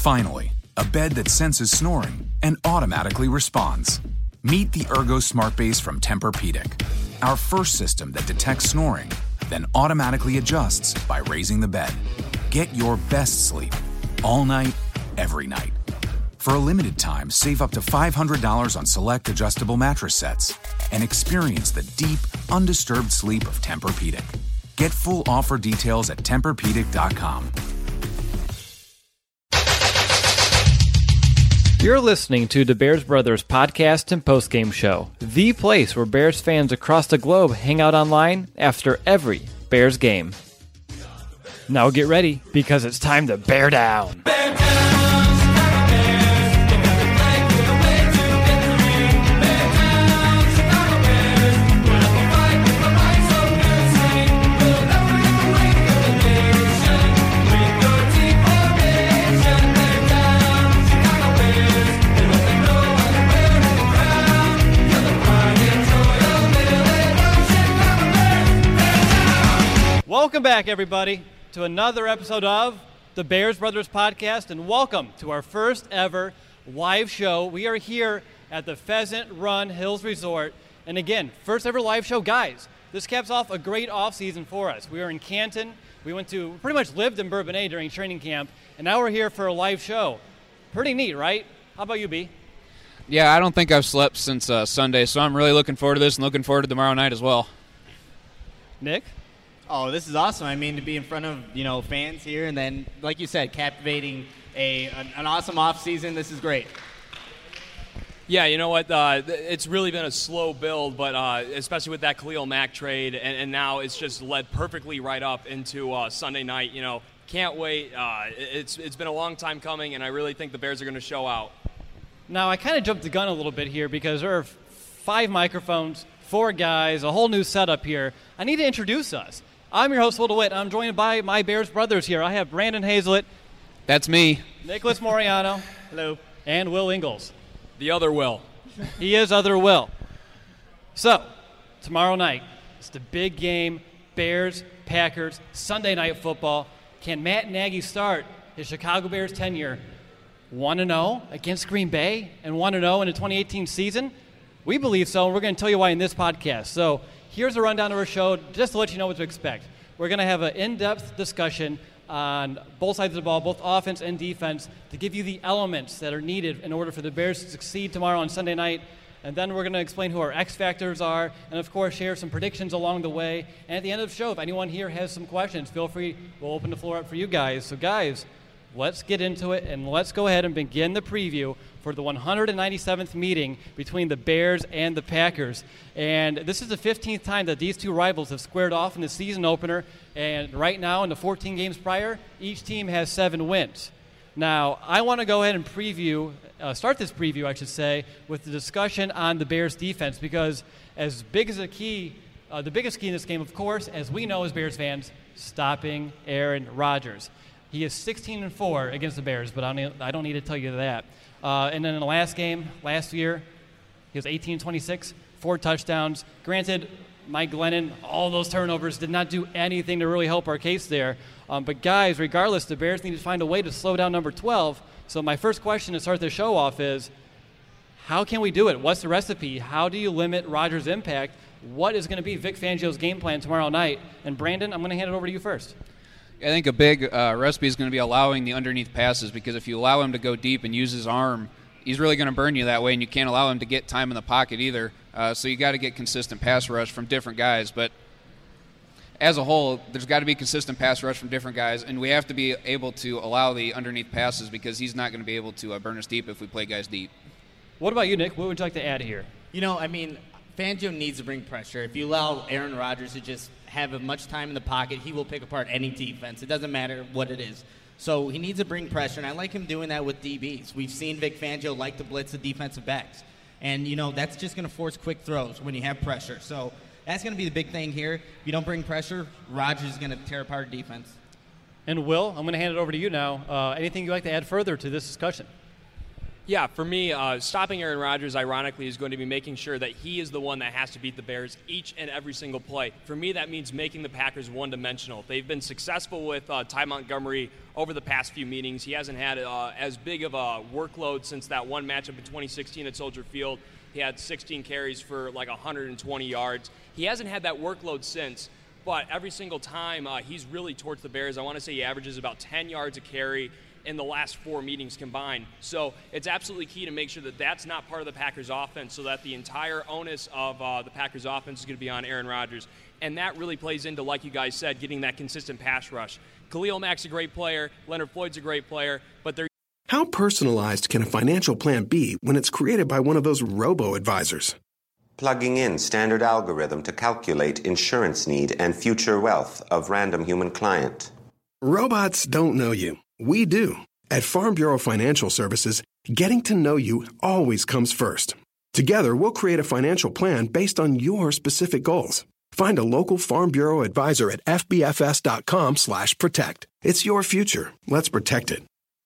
Finally, a bed that senses snoring and automatically responds. Meet the Ergo Smart Base from Tempur-Pedic, our first system that detects snoring, then automatically adjusts by raising the bed. Get your best sleep all night, every night. For a limited time, save up to $500 on select adjustable mattress sets and experience the deep, undisturbed sleep of Tempur-Pedic. Get full offer details at TempurPedic.com. You're listening to the Bears Brothers podcast and postgame show, the place where Bears fans across the globe hang out online after every Bears game. Now get ready, because it's time to bear down. Welcome back, everybody, to another episode of the Bears Brothers podcast, and welcome to our first ever live show. We are here at the Pheasant Run Hills Resort, and again, first ever live show. Guys, this caps off a great off-season for us. We were in Canton. We pretty much lived in Bourbonnais during training camp, and now we're here for a live show. Pretty neat, right? How about you, B? Yeah, I don't think I've slept since Sunday, so I'm really looking forward to this and looking forward to tomorrow night as well. Nick? Oh, this is awesome. I mean, to be in front of, fans here and then, like you said, captivating an awesome off-season. This is great. Yeah, you know what? It's really been a slow build, but especially with that Khalil Mack trade, and now it's just led perfectly right up into Sunday night. Can't wait. It's been a long time coming, and I really think the Bears are going to show out. Now, I kind of jumped the gun a little bit here because there are 5 microphones, 4 guys, a whole new setup here. I need to introduce us. I'm your host, Will DeWitt. I'm joined by my Bears brothers here. I have Brandon Hazlett. That's me. Nicholas Moriano. Hello. And Will Ingalls. The other Will. He is other Will. So, tomorrow night, it's the big game, Bears, Packers, Sunday Night Football. Can Matt Nagy start his Chicago Bears tenure 1-0 against Green Bay and 1-0 in the 2018 season? We believe so, and we're going to tell you why in this podcast. So, here's a rundown of our show, just to let you know what to expect. We're going to have an in-depth discussion on both sides of the ball, both offense and defense, to give you the elements that are needed in order for the Bears to succeed tomorrow on Sunday night. And then we're going to explain who our X factors are, and of course share some predictions along the way. And at the end of the show, if anyone here has some questions, feel free. We'll open the floor up for you guys. So guys, let's get into it, and let's go ahead and begin the preview for the 197th meeting between the Bears and the Packers. And this is the 15th time that these two rivals have squared off in the season opener. And right now, in the 14 games prior, each team has 7 wins. Now, I want to go ahead and start this preview, I should say, with the discussion on the Bears' defense, because as big as the biggest key in this game, of course, as we know as Bears fans, stopping Aaron Rodgers. He is 16-4 against the Bears, but I don't need to tell you that. And then in the last game, last year, he was 18-26, 4 touchdowns. Granted, Mike Glennon, all those turnovers did not do anything to really help our case there. But guys, regardless, the Bears need to find a way to slow down number 12. So my first question to start the show off is, how can we do it? What's the recipe? How do you limit Rodgers' impact? What is going to be Vic Fangio's game plan tomorrow night? And Brandon, I'm going to hand it over to you first. I think a big recipe is going to be allowing the underneath passes, because if you allow him to go deep and use his arm, he's really going to burn you that way, and you can't allow him to get time in the pocket either. So you got to get consistent pass rush from different guys. But as a whole, there's got to be consistent pass rush from different guys, and we have to be able to allow the underneath passes, because he's not going to be able to burn us deep if we play guys deep. What about you, Nick? What would you like to add here? Fangio needs to bring pressure. If you allow Aaron Rodgers to just have as much time in the pocket, he will pick apart any defense. It doesn't matter what it is. So he needs to bring pressure, and I like him doing that with DBs. We've seen Vic Fangio like to blitz the defensive backs. And, that's just going to force quick throws when you have pressure. So that's going to be the big thing here. If you don't bring pressure, Rodgers is going to tear apart defense. And Will, I'm going to hand it over to you now. Anything you'd like to add further to this discussion? Yeah, for me, stopping Aaron Rodgers, ironically, is going to be making sure that he is the one that has to beat the Bears each and every single play. For me, that means making the Packers one-dimensional. They've been successful with Ty Montgomery over the past few meetings. He hasn't had as big of a workload since that one matchup in 2016 at Soldier Field. He had 16 carries for like 120 yards. He hasn't had that workload since, but every single time he's really torched the Bears. I want to say he averages about 10 yards a carry in the last 4 meetings combined. So it's absolutely key to make sure that that's not part of the Packers offense, so that the entire onus of the Packers offense is going to be on Aaron Rodgers. And that really plays into, like you guys said, getting that consistent pass rush. Khalil Mack's a great player. Leonard Floyd's a great player, but they're... How personalized can a financial plan be when it's created by one of those robo-advisors? Plugging in standard algorithm to calculate insurance need and future wealth of random human client. Robots don't know you. We do. At Farm Bureau Financial Services, getting to know you always comes first. Together, we'll create a financial plan based on your specific goals. Find a local Farm Bureau advisor at fbfs.com/protect. It's your future. Let's protect it.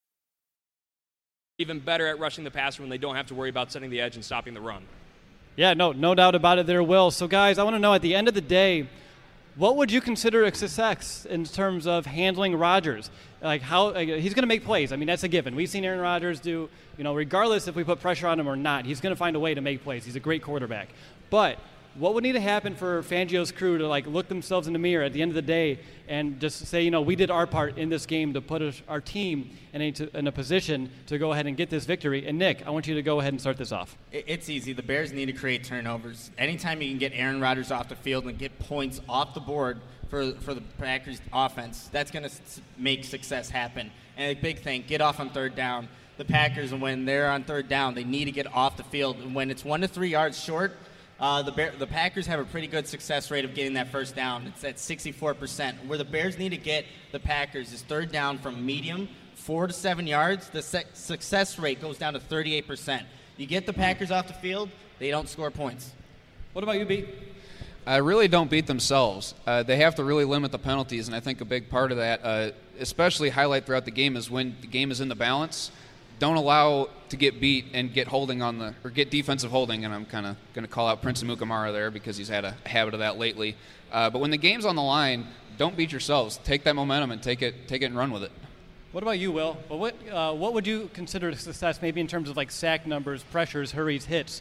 Even better at rushing the passer when they don't have to worry about setting the edge and stopping the run. Yeah, no doubt about it there, Will. So, guys, I want to know at the end of the day, what would you consider a success in terms of handling Rodgers? Like how he's going to make plays. I mean, that's a given. We've seen Aaron Rodgers do, regardless if we put pressure on him or not, he's going to find a way to make plays. He's a great quarterback. But what would need to happen for Fangio's crew to look themselves in the mirror at the end of the day and just say, we did our part in this game to put our team in a position to go ahead and get this victory? And Nick, I want you to go ahead and start this off. It's easy. The Bears need to create turnovers. Anytime you can get Aaron Rodgers off the field and get points off the board for the Packers offense, that's going to make success happen. And a big thing, get off on third down. The Packers, when they're on third down, they need to get off the field. And when it's 1 to 3 yards short, the Packers have a pretty good success rate of getting that first down. It's at 64%. Where the Bears need to get the Packers is third down from medium, 4 to 7 yards. The success rate goes down to 38%. You get the Packers off the field, they don't score points. What about you, B? Really don't beat themselves. They have to really limit the penalties, and I think a big part of that, especially highlight throughout the game, is when the game is in the balance. Don't allow to get beat and get holding or get defensive holding, and I'm kind of going to call out Prince Amukamara there because he's had a habit of that lately. But when the game's on the line, don't beat yourselves. Take that momentum and take it and run with it. What about you, Will? Well, what would you consider a success, maybe in terms of sack numbers, pressures, hurries, hits?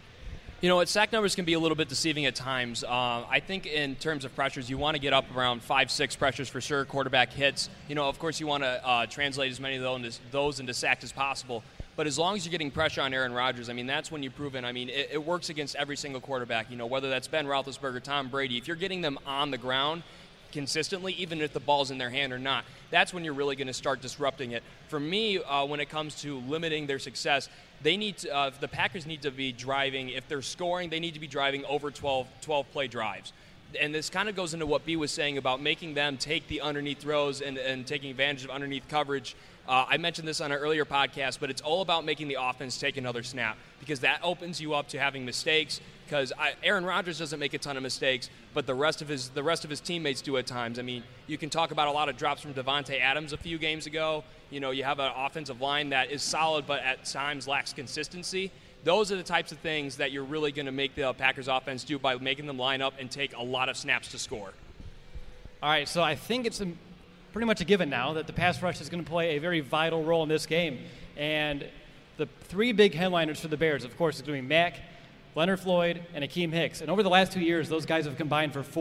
Sack numbers can be a little bit deceiving at times. I think in terms of pressures, you want to get up around 5-6 pressures for sure, quarterback hits. Of course, you want to translate as many of those into sacks as possible. But as long as you're getting pressure on Aaron Rodgers, that's when you've proven. It works against every single quarterback. Whether that's Ben Roethlisberger, Tom Brady. If you're getting them on the ground consistently, even if the ball's in their hand or not, that's when you're really going to start disrupting it. For me, when it comes to limiting their success, they need to, the Packers need to be driving. If they're scoring, they need to be driving over 12-play drives. And this kind of goes into what B was saying about making them take the underneath throws and taking advantage of underneath coverage. I mentioned this on an earlier podcast, but it's all about making the offense take another snap because that opens you up to having mistakes. Because Aaron Rodgers doesn't make a ton of mistakes, but the rest of his teammates do at times. You can talk about a lot of drops from Davante Adams a few games ago. You have an offensive line that is solid, but at times lacks consistency. Those are the types of things that you're really going to make the Packers offense do by making them line up and take a lot of snaps to score. All right, so I think it's pretty much a given now that the pass rush is going to play a very vital role in this game. And the three big headliners for the Bears, of course, is going to be Mack, Leonard Floyd, and Akeem Hicks. And over the last 2 years, those guys have combined for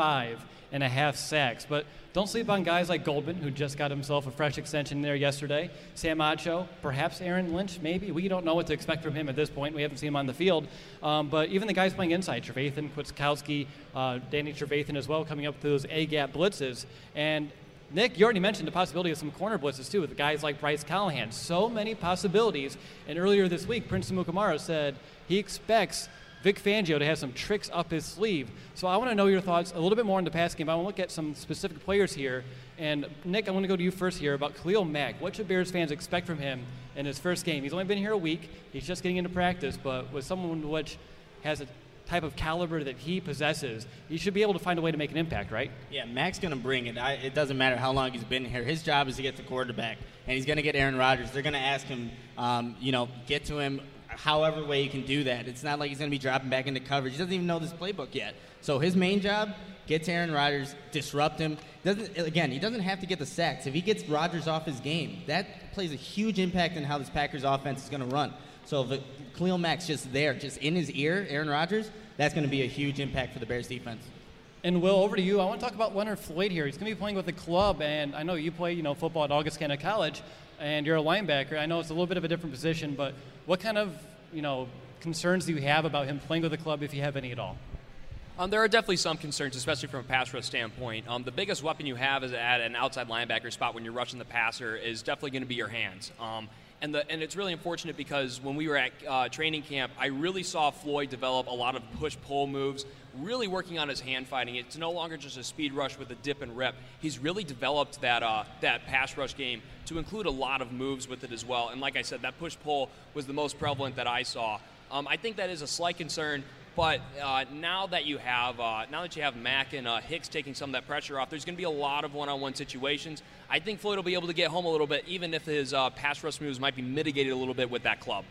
45.5 sacks. But don't sleep on guys like Goldman, who just got himself a fresh extension there yesterday. Sam Acho, perhaps Aaron Lynch, maybe. We don't know what to expect from him at this point. We haven't seen him on the field. But even the guys playing inside, Trevathan, Kwiatkowski, Danny Trevathan as well, coming up with those A-gap blitzes. And Nick, you already mentioned the possibility of some corner blitzes, too, with guys like Bryce Callahan. So many possibilities. And earlier this week, Prince Amukamara said he expects Vic Fangio to have some tricks up his sleeve. So I want to know your thoughts a little bit more on the pass game. I want to look at some specific players here. And, Nick, I want to go to you first here about Khalil Mack. What should Bears fans expect from him in his first game? He's only been here a week. He's just getting into practice. But with someone which has a type of caliber that he possesses, he should be able to find a way to make an impact, right? Yeah, Mac's going to bring it. It doesn't matter how long he's been here. His job is to get the quarterback, and he's going to get Aaron Rodgers. They're going to ask him, get to him however way he can do that. It's not like he's going to be dropping back into coverage. He doesn't even know this playbook yet. So his main job, get to Aaron Rodgers, disrupt him. He doesn't have to get the sacks. If he gets Rodgers off his game, that plays a huge impact on how this Packers offense is going to run. So if Khalil Mack's just there, just in his ear, Aaron Rodgers, that's going to be a huge impact for the Bears defense. And Will, over to you. I want to talk about Leonard Floyd here. He's going to be playing with the club, and I know you play, football at Augustana College, and you're a linebacker. I know it's a little bit of a different position, but what kind of, concerns do you have about him playing with the club, if you have any at all? There are definitely some concerns, especially from a pass rush standpoint. The biggest weapon you have is at an outside linebacker spot when you're rushing the passer is definitely going to be your hands. And it's really unfortunate because when we were at training camp, I really saw Floyd develop a lot of push-pull moves, really working on his hand fighting. It's no longer just a speed rush with a dip and rip. He's really developed that pass rush game to include a lot of moves with it as well. And like I said, that push-pull was the most prevalent that I saw. I think that is a slight concern. But now that you have Mack and Hicks taking some of that pressure off, there's going to be a lot of one-on-one situations. I think Floyd will be able to get home a little bit, even if his pass rush moves might be mitigated a little bit with that club.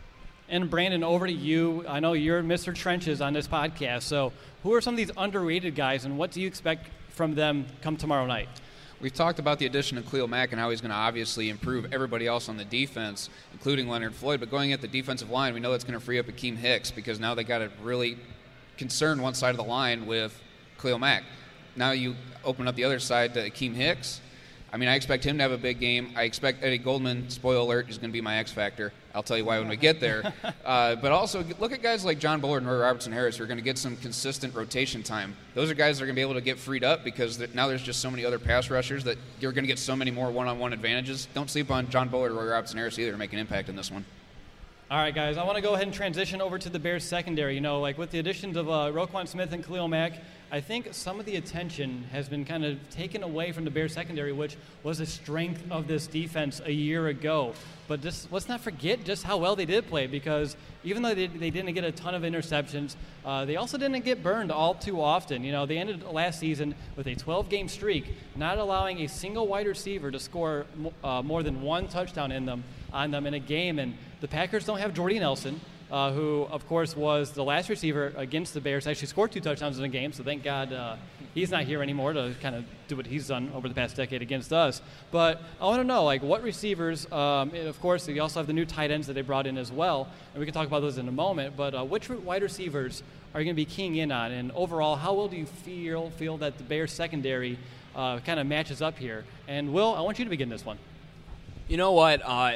And Brandon, over to you. I know you're Mr. Trenches on this podcast. So who are some of these underrated guys, and what do you expect from them come tomorrow night? We've talked about the addition of Khalil Mack and how he's going to obviously improve everybody else on the defense, including Leonard Floyd. But going at the defensive line, we know it's going to free up Akeem Hicks because now they got to really concern one side of the line with Khalil Mack. Now you open up the other side to Akeem Hicks. I mean, I expect him to have a big game. I expect Eddie Goldman, spoiler alert, is going to be my X factor. I'll tell you why when we get there. But also, look at guys like John Bullard and Roy Robertson-Harris who are going to get some consistent rotation time. Those are guys that are going to be able to get freed up because now there's just so many other pass rushers that you're going to get so many more one-on-one advantages. Don't sleep on John Bullard or Roy Robertson-Harris either to make an impact in this one. All right, guys, I want to go ahead and transition over to the Bears secondary. With the additions of Roquan Smith and Khalil Mack, I think some of the attention has been kind of taken away from the Bears secondary, which was a strength of this defense a year ago. But let's not forget just how well they did play, because even though they didn't get a ton of interceptions, they also didn't get burned all too often. They ended last season with a 12-game streak, not allowing a single wide receiver to score more than one touchdown on them in a game. And the Packers don't have Jordy Nelson, who, of course, was the last receiver against the Bears, actually scored 2 touchdowns in a game, so thank God he's not here anymore to kind of do what he's done over the past decade against us. But I want to know, what receivers, and of course, you also have the new tight ends that they brought in as well, and we can talk about those in a moment, but which wide receivers are you going to be keying in on? And overall, how well do you feel that the Bears secondary kind of matches up here? And, Will, I want you to begin this one. You know what?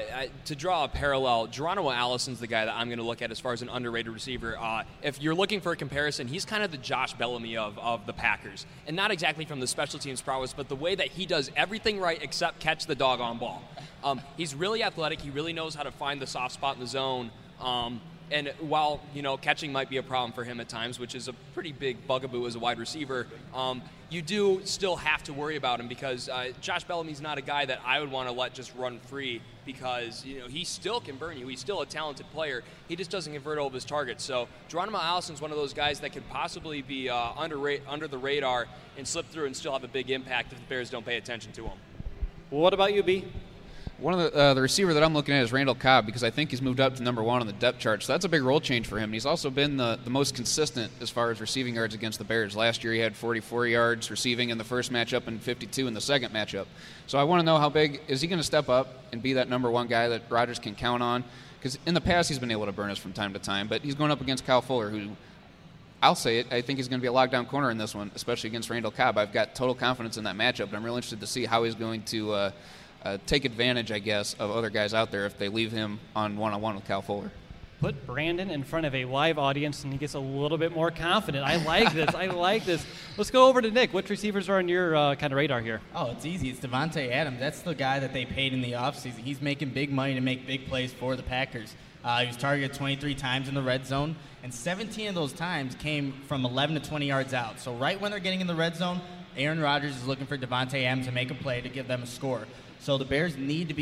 To draw a parallel, Geronimo Allison's the guy that I'm going to look at as far as an underrated receiver. If you're looking for a comparison, he's kind of the Josh Bellamy of the Packers. And not exactly from the special teams prowess, but the way that he does everything right except catch the doggone ball. He's really athletic. He really knows how to find the soft spot in the zone. And while, catching might be a problem for him at times, which is a pretty big bugaboo as a wide receiver, you do still have to worry about him because Josh Bellamy's not a guy that I would want to let just run free because, he still can burn you. He's still a talented player. He just doesn't convert all of his targets. So Geronimo Allison's one of those guys that could possibly be under the radar and slip through and still have a big impact if the Bears don't pay attention to him. Well, what about you, B? One of the receiver that I'm looking at is Randall Cobb because I think he's moved up to number 1 on the depth chart. So that's a big role change for him. And he's also been the most consistent as far as receiving yards against the Bears. Last year he had 44 yards receiving in the first matchup and 52 in the second matchup. So I want to know how big is he going to step up and be that number 1 guy that Rodgers can count on? Because in the past he's been able to burn us from time to time, but he's going up against Kyle Fuller, who I'll say it, I think he's going to be a lockdown corner in this one, especially against Randall Cobb. I've got total confidence in that matchup, but I'm real interested to see how he's going to take advantage, I guess, of other guys out there if they leave him on one-on-one with Kyle Fuller. Put Brandon in front of a live audience, and he gets a little bit more confident. I like this. Let's go over to Nick. Which receivers are on your kind of radar here? Oh, it's easy. It's Devontae Adams. That's the guy that they paid in the offseason. He's making big money to make big plays for the Packers. He was targeted 23 times in the red zone, and 17 of those times came from 11 to 20 yards out. So right when they're getting in the red zone, Aaron Rodgers is looking for Devontae Adams to make a play to give them a score. So the Bears need to be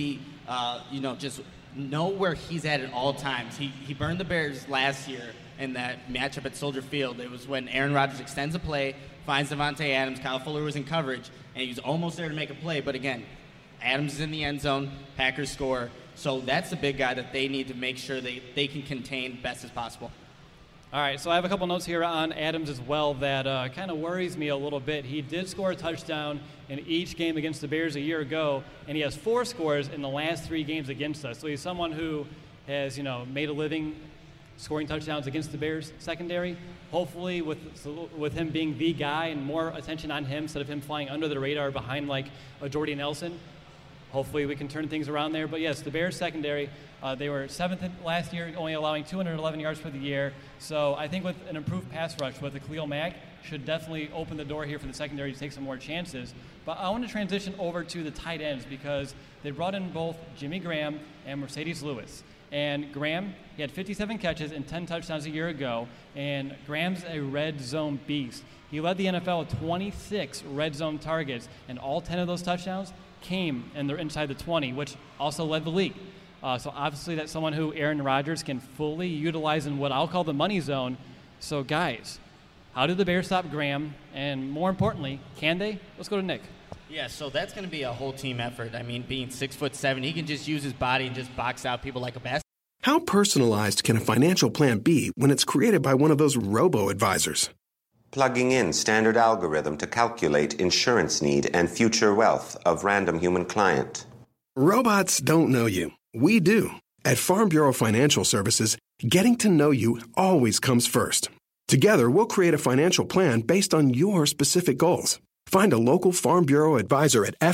just know where he's at all times. He burned the Bears last year in that matchup at Soldier Field. It was when Aaron Rodgers extends a play, finds Davante Adams, Kyle Fuller was in coverage, and he was almost there to make a play. But again, Adams is in the end zone, Packers score. So that's the big guy that they need to make sure they can contain best as possible. All right, so I have a couple notes here on Adams as well that kind of worries me a little bit. He did score a touchdown in each game against the Bears a year ago, and he has 4 scores in the last 3 games against us. So he's someone who has, made a living scoring touchdowns against the Bears secondary. Hopefully with him being the guy and more attention on him instead of him flying under the radar behind like a Jordy Nelson, hopefully we can turn things around there. But yes, the Bears secondary, they were 7th last year, only allowing 211 yards for the year. So I think with an improved pass rush with the Khalil Mack should definitely open the door here for the secondary to take some more chances. But I want to transition over to the tight ends because they brought in both Jimmy Graham and Mercedes Lewis. And Graham, he had 57 catches and 10 touchdowns a year ago, and Graham's a red zone beast. He led the NFL with 26 red zone targets, and all 10 of those touchdowns came and they're inside the 20, which also led the league. So obviously that's someone who Aaron Rodgers can fully utilize in what I'll call the money zone. So guys, how did the Bears stop Graham? And more importantly, can they? Let's go to Nick. Yeah, so that's going to be a whole team effort. I mean, being 6'7", he can just use his body and just box out people like a basketball. How personalized can a financial plan be when it's created by one of those robo-advisors? Plugging in standard algorithm to calculate insurance need and future wealth of random human client. Robots don't know you. We do. At Farm Bureau Financial Services, getting to know you always comes first. Together, we'll create a financial plan based on your specific goals. Find a local Farm Bureau advisor at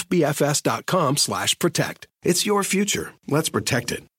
fbfs.com/protect. It's your future. Let's protect it.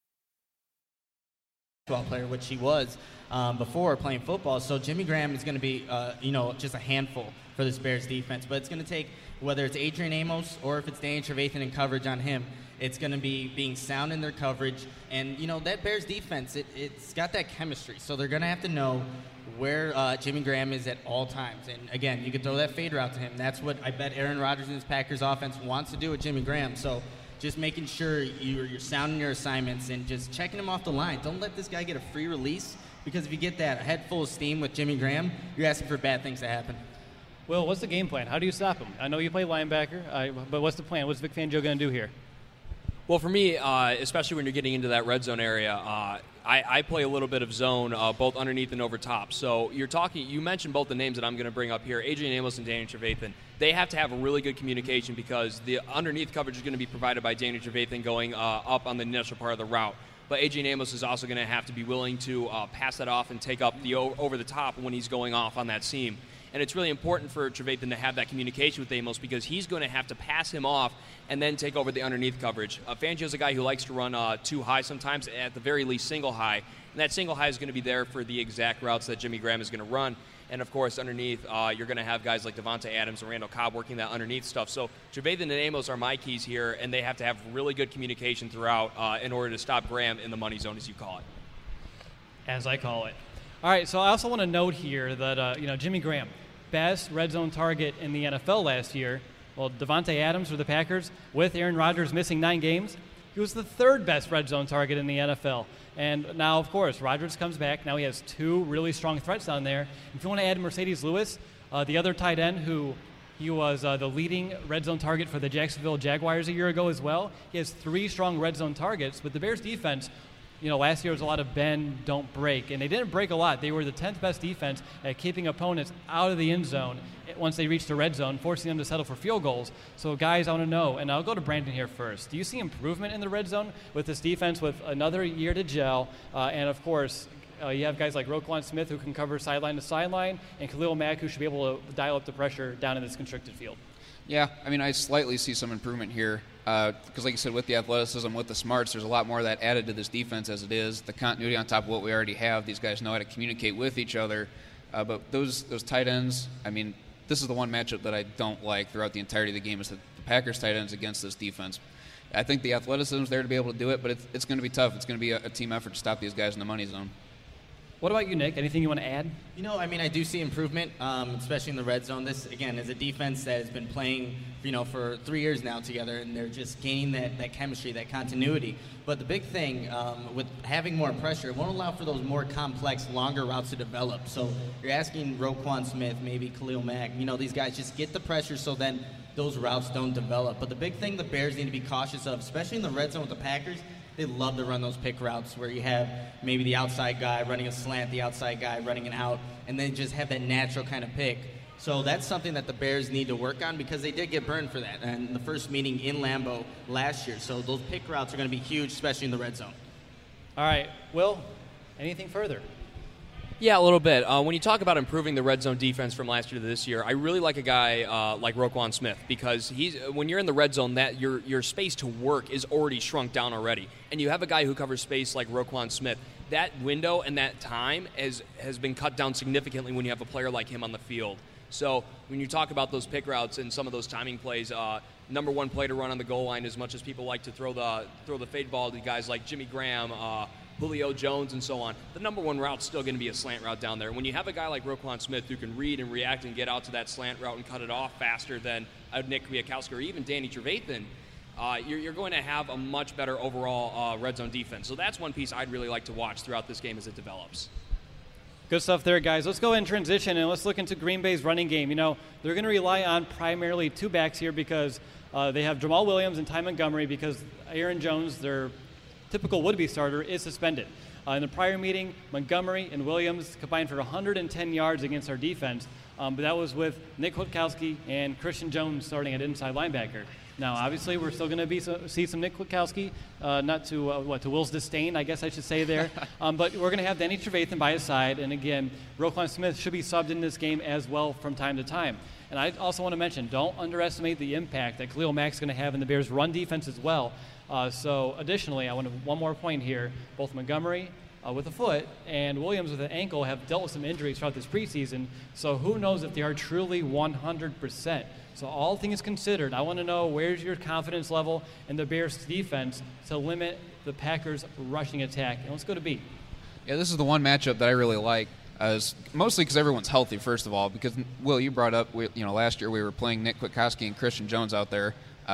Player, which he was before playing football. So Jimmy Graham is going to be, just a handful for this Bears defense. But it's going to take, whether it's Adrian Amos or if it's Danny Trevathan in coverage on him, it's going to be being sound in their coverage. And, that Bears defense, it's got that chemistry. So they're going to have to know where Jimmy Graham is at all times. And, again, you can throw that fade route to him. That's what I bet Aaron Rodgers and his Packers offense wants to do with Jimmy Graham. So just making sure you're sounding your assignments and just checking him off the line. Don't let this guy get a free release, because if you get that head full of steam with Jimmy Graham, you're asking for bad things to happen. Will, what's the game plan? How do you stop him? I know you play linebacker, but what's the plan? What's Vic Fangio going to do here? Well, for me, especially when you're getting into that red zone area, I play a little bit of zone, both underneath and over top. So you mentioned both the names that I'm going to bring up here, Adrian Amos and Danny Trevathan. They have to have a really good communication because the underneath coverage is going to be provided by Danny Trevathan going up on the initial part of the route. But Adrian Amos is also going to have to be willing to pass that off and take up the over the top when he's going off on that seam. And it's really important for Trevathan to have that communication with Amos because he's going to have to pass him off and then take over the underneath coverage. Fangio's a guy who likes to run too high sometimes, at the very least single high. And that single high is going to be there for the exact routes that Jimmy Graham is going to run. And, of course, underneath, you're going to have guys like Davante Adams and Randall Cobb working that underneath stuff. So Trevathan and Amos are my keys here, and they have to have really good communication throughout in order to stop Graham in the money zone, as you call it. As I call it. All right, so I also want to note here that, Jimmy Graham, best red zone target in the NFL last year. Well, Davante Adams for the Packers, with Aaron Rodgers missing 9 games, he was the 3rd best red zone target in the NFL. And now, of course, Rodgers comes back. Now he has 2 really strong threats down there. If you want to add Mercedes Lewis, the other tight end who he was the leading red zone target for the Jacksonville Jaguars a year ago as well. He has 3 strong red zone targets, but the Bears defense, last year was a lot of bend, don't break. And they didn't break a lot. They were the 10th best defense at keeping opponents out of the end zone once they reached the red zone, forcing them to settle for field goals. So, guys, I want to know, and I'll go to Brandon here first. Do you see improvement in the red zone with this defense with another year to gel? And, of course, you have guys like Roquan Smith who can cover sideline to sideline, and Khalil Mack who should be able to dial up the pressure down in this constricted field. Yeah, I slightly see some improvement here because, like you said, with the athleticism, with the smarts, there's a lot more of that added to this defense as it is. The continuity on top of what we already have. These guys know how to communicate with each other. But those tight ends, this is the one matchup that I don't like throughout the entirety of the game is the Packers tight ends against this defense. I think the athleticism is there to be able to do it, but it's going to be tough. It's going to be a team effort to stop these guys in the money zone. What about you, Nick? Anything you want to add? I do see improvement, especially in the red zone. This, again, is a defense that has been playing, for 3 years now together, and they're just gaining that chemistry, that continuity. But the big thing with having more pressure, it won't allow for those more complex, longer routes to develop. So you're asking Roquan Smith, maybe Khalil Mack, these guys just get the pressure so then those routes don't develop. But the big thing the Bears need to be cautious of, especially in the red zone with the Packers, they love to run those pick routes where you have maybe the outside guy running a slant, the outside guy running an out, and then just have that natural kind of pick. So that's something that the Bears need to work on because they did get burned for that in the first meeting in Lambeau last year. So those pick routes are going to be huge, especially in the red zone. All right. Will, anything further? Yeah, a little bit. When you talk about improving the red zone defense from last year to this year, I really like a guy like Roquan Smith because when you're in the red zone, that your space to work is already shrunk down already, and you have a guy who covers space like Roquan Smith. That window and that time has been cut down significantly when you have a player like him on the field. So when you talk about those pick routes and some of those timing plays, number one play to run on the goal line, as much as people like to throw the fade ball to guys like Jimmy Graham, Julio Jones, and so on, the number one route's still going to be a slant route down there. When you have a guy like Roquan Smith who can read and react and get out to that slant route and cut it off faster than Nick Kwiatkowski or even Danny Trevathan, you're going to have a much better overall red zone defense. So that's one piece I'd really like to watch throughout this game as it develops. Good stuff there, guys. Let's go ahead and transition, and let's look into Green Bay's running game. They're going to rely on primarily two backs here because they have Jamal Williams and Ty Montgomery because Aaron Jones, their typical would-be starter, is suspended. In the prior meeting, Montgomery and Williams combined for 110 yards against our defense, but that was with Nick Kwiatkowski and Christian Jones starting at inside linebacker. Now, obviously, we're still going to see some Nick Kwiatkowski, not to Will's disdain, I guess I should say there. But we're going to have Danny Trevathan by his side, and again, Roquan Smith should be subbed in this game as well from time to time. And I also want to mention, don't underestimate the impact that Khalil Mack's going to have in the Bears' run defense as well. So additionally, I want to one more point here. Both Montgomery with a foot and Williams with an ankle have dealt with some injuries throughout this preseason. So who knows if they are truly 100%. So all things considered, I want to know where's your confidence level in the Bears' defense to limit the Packers' rushing attack. And let's go to B. Yeah, this is the one matchup that I really like. Mostly because everyone's healthy, first of all. Because, Will, you brought up, last year we were playing Nick Kwiatkowski and Christian Jones out there.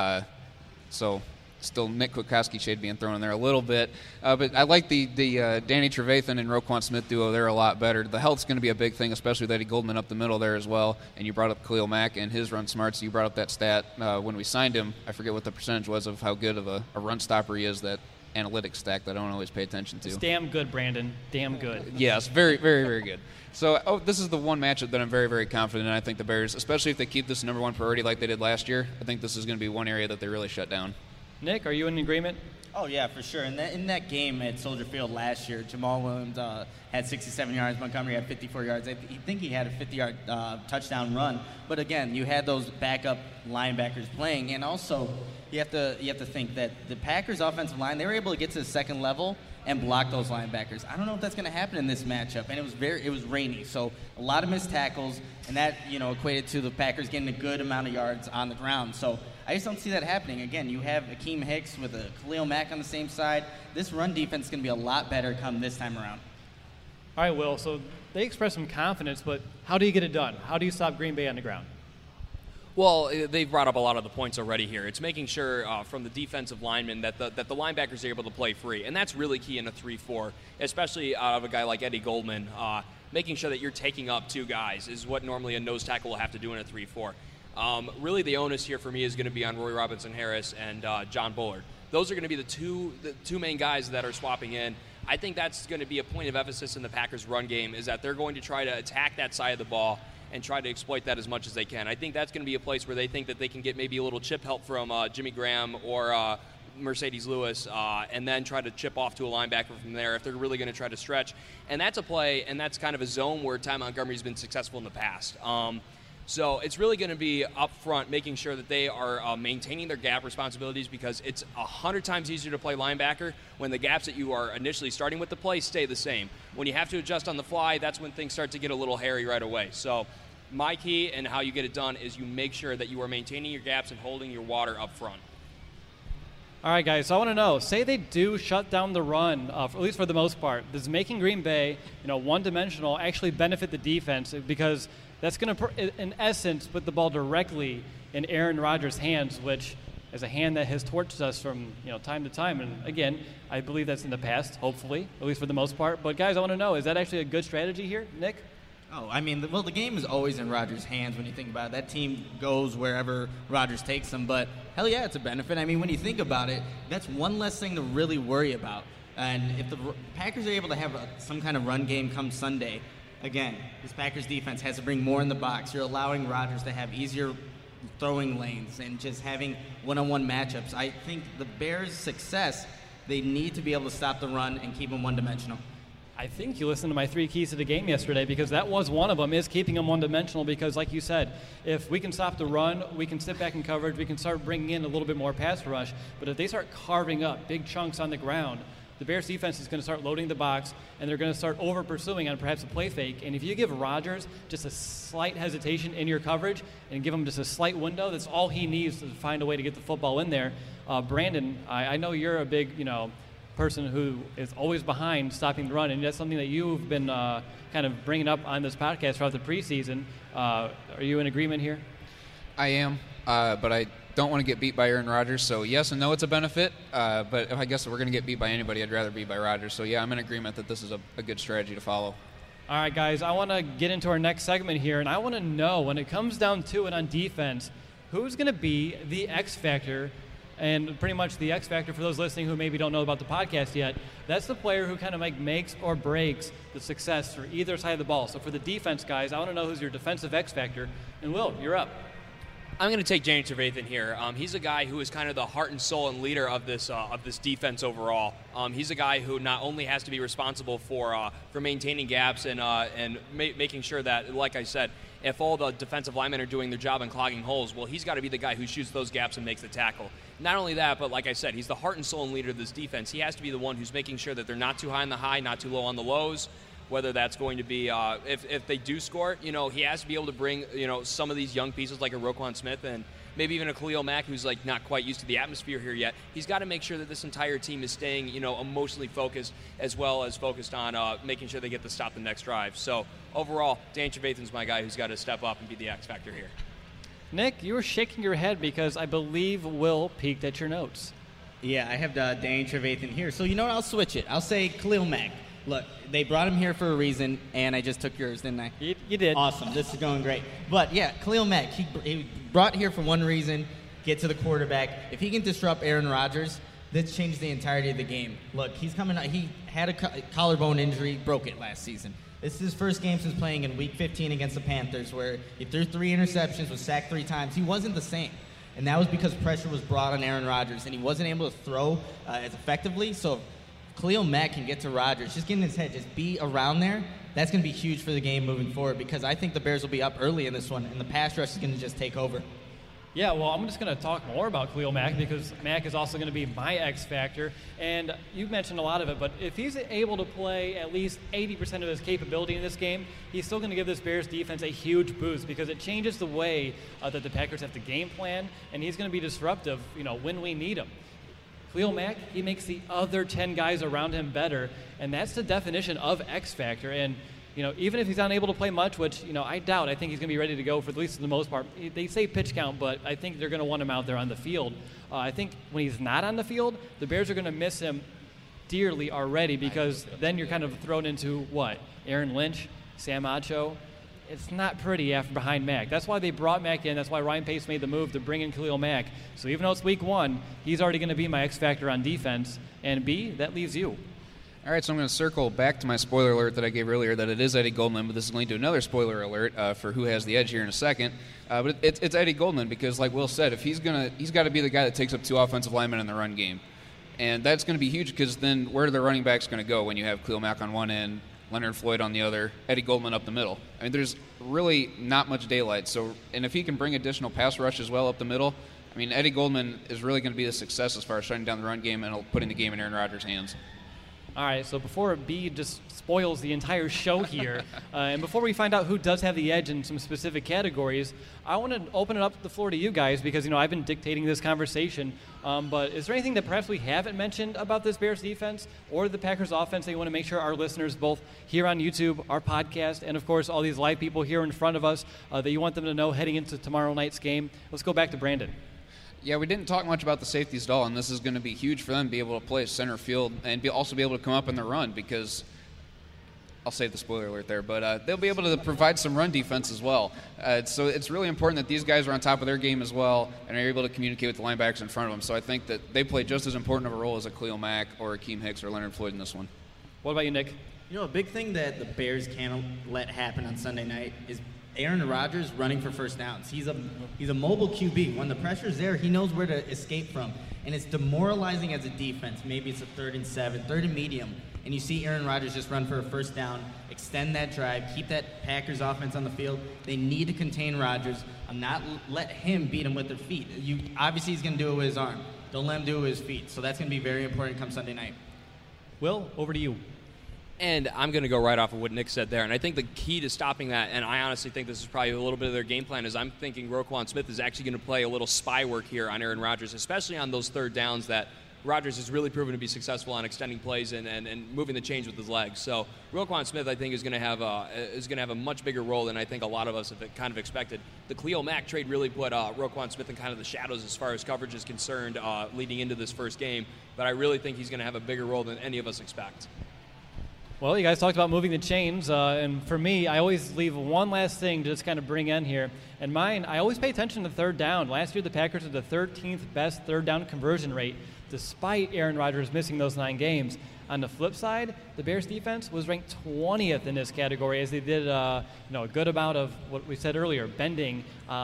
So still Nick Kwiatkowski shade being thrown in there a little bit. But I like the Danny Trevathan and Roquan Smith duo. They're a lot better. The health's going to be a big thing, especially with Eddie Goldman up the middle there as well. And you brought up Khalil Mack and his run smarts. You brought up that stat when we signed him. I forget what the percentage was of how good of a run stopper he is, that analytics stack that I don't always pay attention to. It's damn good, Brandon. Damn good. Yes, very, very, very good. So this is the one matchup that I'm very, very confident in. I think the Bears, especially if they keep this number one priority like they did last year, I think this is going to be one area that they really shut down. Nick, are you in agreement? Oh, yeah, for sure. In that game at Soldier Field last year, Jamal Williams had 67 yards. Montgomery had 54 yards. I think he had a 50-yard touchdown run. But, again, you had those backup linebackers playing. And also, you have to think that the Packers' offensive line, they were able to get to the second level and block those linebackers. I don't know if that's going to happen in this matchup. And it was rainy, so a lot of missed tackles, and that equated to the Packers getting a good amount of yards on the ground. So I just don't see that happening. Again, you have Akeem Hicks with a Khalil Mack on the same side. This run defense is going to be a lot better come this time around. All right, Will, so they express some confidence, but how do you get it done? How do you stop Green Bay on the ground? Well, they've brought up a lot of the points already here. It's making sure from the defensive linemen that the linebackers are able to play free, and that's really key in a 3-4, especially out of a guy like Eddie Goldman. Making sure that you're taking up two guys is what normally a nose tackle will have to do in a 3-4. Really, the onus here for me is going to be on Roy Robinson-Harris and John Bullard. Those are going to be the two main guys that are swapping in. I think that's going to be a point of emphasis in the Packers' run game, is that they're going to try to attack that side of the ball and try to exploit that as much as they can. I think that's going to be a place where they think that they can get maybe a little chip help from Jimmy Graham or Mercedes Lewis, and then try to chip off to a linebacker from there if they're really going to try to stretch. And that's a play, and that's kind of a zone where Ty Montgomery's been successful in the past. So it's really going to be up front, making sure that they are maintaining their gap responsibilities, because it's 100 times easier to play linebacker when the gaps that you are initially starting with the play stay the same. When you have to adjust on the fly, that's when things start to get a little hairy right away. So my key and how you get it done is you make sure that you are maintaining your gaps and holding your water up front. All right, guys, so I want to know, say they do shut down the run, at least for the most part. Does making Green Bay, one-dimensional actually benefit the defense? Because that's going to, in essence, put the ball directly in Aaron Rodgers' hands, which is a hand that has torched us from time to time. And, again, I believe that's in the past, hopefully, at least for the most part. But, guys, I want to know, is that actually a good strategy here, Nick? Oh, I mean, the game is always in Rodgers' hands when you think about it. That team goes wherever Rodgers takes them, but hell yeah, it's a benefit. I mean, when you think about it, that's one less thing to really worry about. And if the Packers are able to have some kind of run game come Sunday, again, this Packers defense has to bring more in the box. You're allowing Rodgers to have easier throwing lanes and just having one-on-one matchups. I think the Bears' success, they need to be able to stop the run and keep them one-dimensional. I think you listened to my 3 keys to the game yesterday, because that was one of them, is keeping them one-dimensional, because like you said, if we can stop the run, we can sit back in coverage, we can start bringing in a little bit more pass rush. But if they start carving up big chunks on the ground, the Bears defense is going to start loading the box, and they're going to start over-pursuing on perhaps a play fake. And if you give Rodgers just a slight hesitation in your coverage and give him just a slight window, that's all he needs to find a way to get the football in there. Brandon, I know you're a big, person who is always behind stopping the run, and that's something that you've been kind of bringing up on this podcast throughout the preseason. Are you in agreement here? I am, but I don't want to get beat by Aaron Rodgers, so yes and no, it's a benefit, but I guess if we're going to get beat by anybody, I'd rather be by Rodgers. So yeah, I'm in agreement that this is a good strategy to follow. All right, guys, I want to get into our next segment here, and I want to know, when it comes down to it on defense, who's going to be the X factor. And pretty much the X factor, for those listening who maybe don't know about the podcast yet, that's the player who kind of makes or breaks the success for either side of the ball. So for the defense, guys, I want to know who's your defensive X factor. And Will, you're up. I'm going to take Danny Trevathan here. He's a guy who is kind of the heart and soul and leader of this defense overall. He's a guy who not only has to be responsible for maintaining gaps and making sure that, like I said, if all the defensive linemen are doing their job and clogging holes, well, he's got to be the guy who shoots those gaps and makes the tackle. Not only that, but like I said, he's the heart and soul and leader of this defense. He has to be the one who's making sure that they're not too high on the high, not too low on the lows. Whether that's going to be if they do score, he has to be able to bring some of these young pieces like a Roquan Smith and maybe even a Khalil Mack, who's like not quite used to the atmosphere here yet. He's got to make sure that this entire team is staying emotionally focused, as well as focused on making sure they get to stop the next drive. So overall, Danny Trevathan's my guy who's got to step up and be the X factor here. Nick, you were shaking your head because I believe Will peeked at your notes. Yeah, I have Danny Trevathan here. So you know what? I'll switch it. I'll say Khalil Mack. Look, they brought him here for a reason, and I just took yours, didn't I? You did. Awesome. This is going great. But, yeah, Khalil Mack, he brought here for one reason, get to the quarterback. If he can disrupt Aaron Rodgers, this changes the entirety of the game. Look, he's coming out. He had a collarbone injury, broke it last season. This is his first game since playing in Week 15 against the Panthers, where he threw 3 interceptions, was sacked 3 times. He wasn't the same. And that was because pressure was brought on Aaron Rodgers, and he wasn't able to throw as effectively. So Khalil Mack can get to Rodgers, just get in his head, just be around there. That's going to be huge for the game moving forward, because I think the Bears will be up early in this one, and the pass rush is going to just take over. Yeah, well, I'm just going to talk more about Khalil Mack, because Mack is also going to be my X factor. And you mentioned a lot of it, but if he's able to play at least 80% of his capability in this game, he's still going to give this Bears defense a huge boost, because it changes the way that the Packers have to game plan, and he's going to be disruptive, when we need him. Khalil Mack, he makes the other 10 guys around him better, and that's the definition of X factor. And even if he's unable to play much, which I doubt, I think he's going to be ready to go for at least the most part. They say pitch count, but I think they're going to want him out there on the field. I think when he's not on the field, the Bears are going to miss him dearly already, because then you're kind of thrown into what? Aaron Lynch, Sam Acho. It's not pretty after behind Mack. That's why they brought Mack in. That's why Ryan Pace made the move to bring in Khalil Mack. So even though it's week 1, he's already going to be my X factor on defense. And B, that leaves you. All right, so I'm going to circle back to my spoiler alert that I gave earlier, that it is Eddie Goldman, but this is going to another spoiler alert for who has the edge here in a second. But it's Eddie Goldman, because like Will said, if he's got to be the guy that takes up 2 offensive linemen in the run game. And that's going to be huge, because then where are the running backs going to go when you have Khalil Mack on one end, Leonard Floyd on the other, Eddie Goldman up the middle? I mean, there's really not much daylight. And if he can bring additional pass rush as well up the middle, I mean, Eddie Goldman is really going to be a success as far as shutting down the run game and putting the game in Aaron Rodgers' hands. All right, so before B just spoils the entire show here, and before we find out who does have the edge in some specific categories, I want to open it up the floor to you guys because, I've been dictating this conversation. But is there anything that perhaps we haven't mentioned about this Bears defense or the Packers offense that you want to make sure our listeners, both here on YouTube, our podcast, and, of course, all these live people here in front of us, that you want them to know heading into tomorrow night's game? Let's go back to Brandon. Yeah, we didn't talk much about the safeties at all, and this is going to be huge for them to be able to play center field and also be able to come up in the run because I'll save the spoiler alert there, but they'll be able to provide some run defense as well. So it's really important that these guys are on top of their game as well and are able to communicate with the linebackers in front of them. So I think that they play just as important of a role as a Khalil Mack or Akeem Hicks or Leonard Floyd in this one. What about you, Nick? A big thing that the Bears can't let happen on Sunday night is Aaron Rodgers running for first downs. He's a mobile QB. When the pressure's there, he knows where to escape from. And it's demoralizing as a defense. Maybe it's a 3rd and 7, 3rd and medium, and you see Aaron Rodgers just run for a first down, extend that drive, keep that Packers offense on the field. They need to contain Rodgers and not let him beat him with their feet. Obviously, he's going to do it with his arm. Don't let him do it with his feet. So that's going to be very important come Sunday night. Will, over to you. And I'm going to go right off of what Nick said there. And I think the key to stopping that, and I honestly think this is probably a little bit of their game plan, is I'm thinking Roquan Smith is actually going to play a little spy work here on Aaron Rodgers, especially on those third downs that Rodgers has really proven to be successful on extending plays and moving the chains with his legs. So Roquan Smith, I think, is going to have a much bigger role than I think a lot of us have kind of expected. The Khalil Mack trade really put Roquan Smith in kind of the shadows as far as coverage is concerned leading into this first game. But I really think he's going to have a bigger role than any of us expect. Well, you guys talked about moving the chains, and for me, I always leave one last thing to just kind of bring in here. And mine, I always pay attention to third down. Last year, the Packers had the 13th best third down conversion rate, despite Aaron Rodgers missing those 9 games. On the flip side, the Bears defense was ranked 20th in this category, as they did a good amount of what we said earlier, bending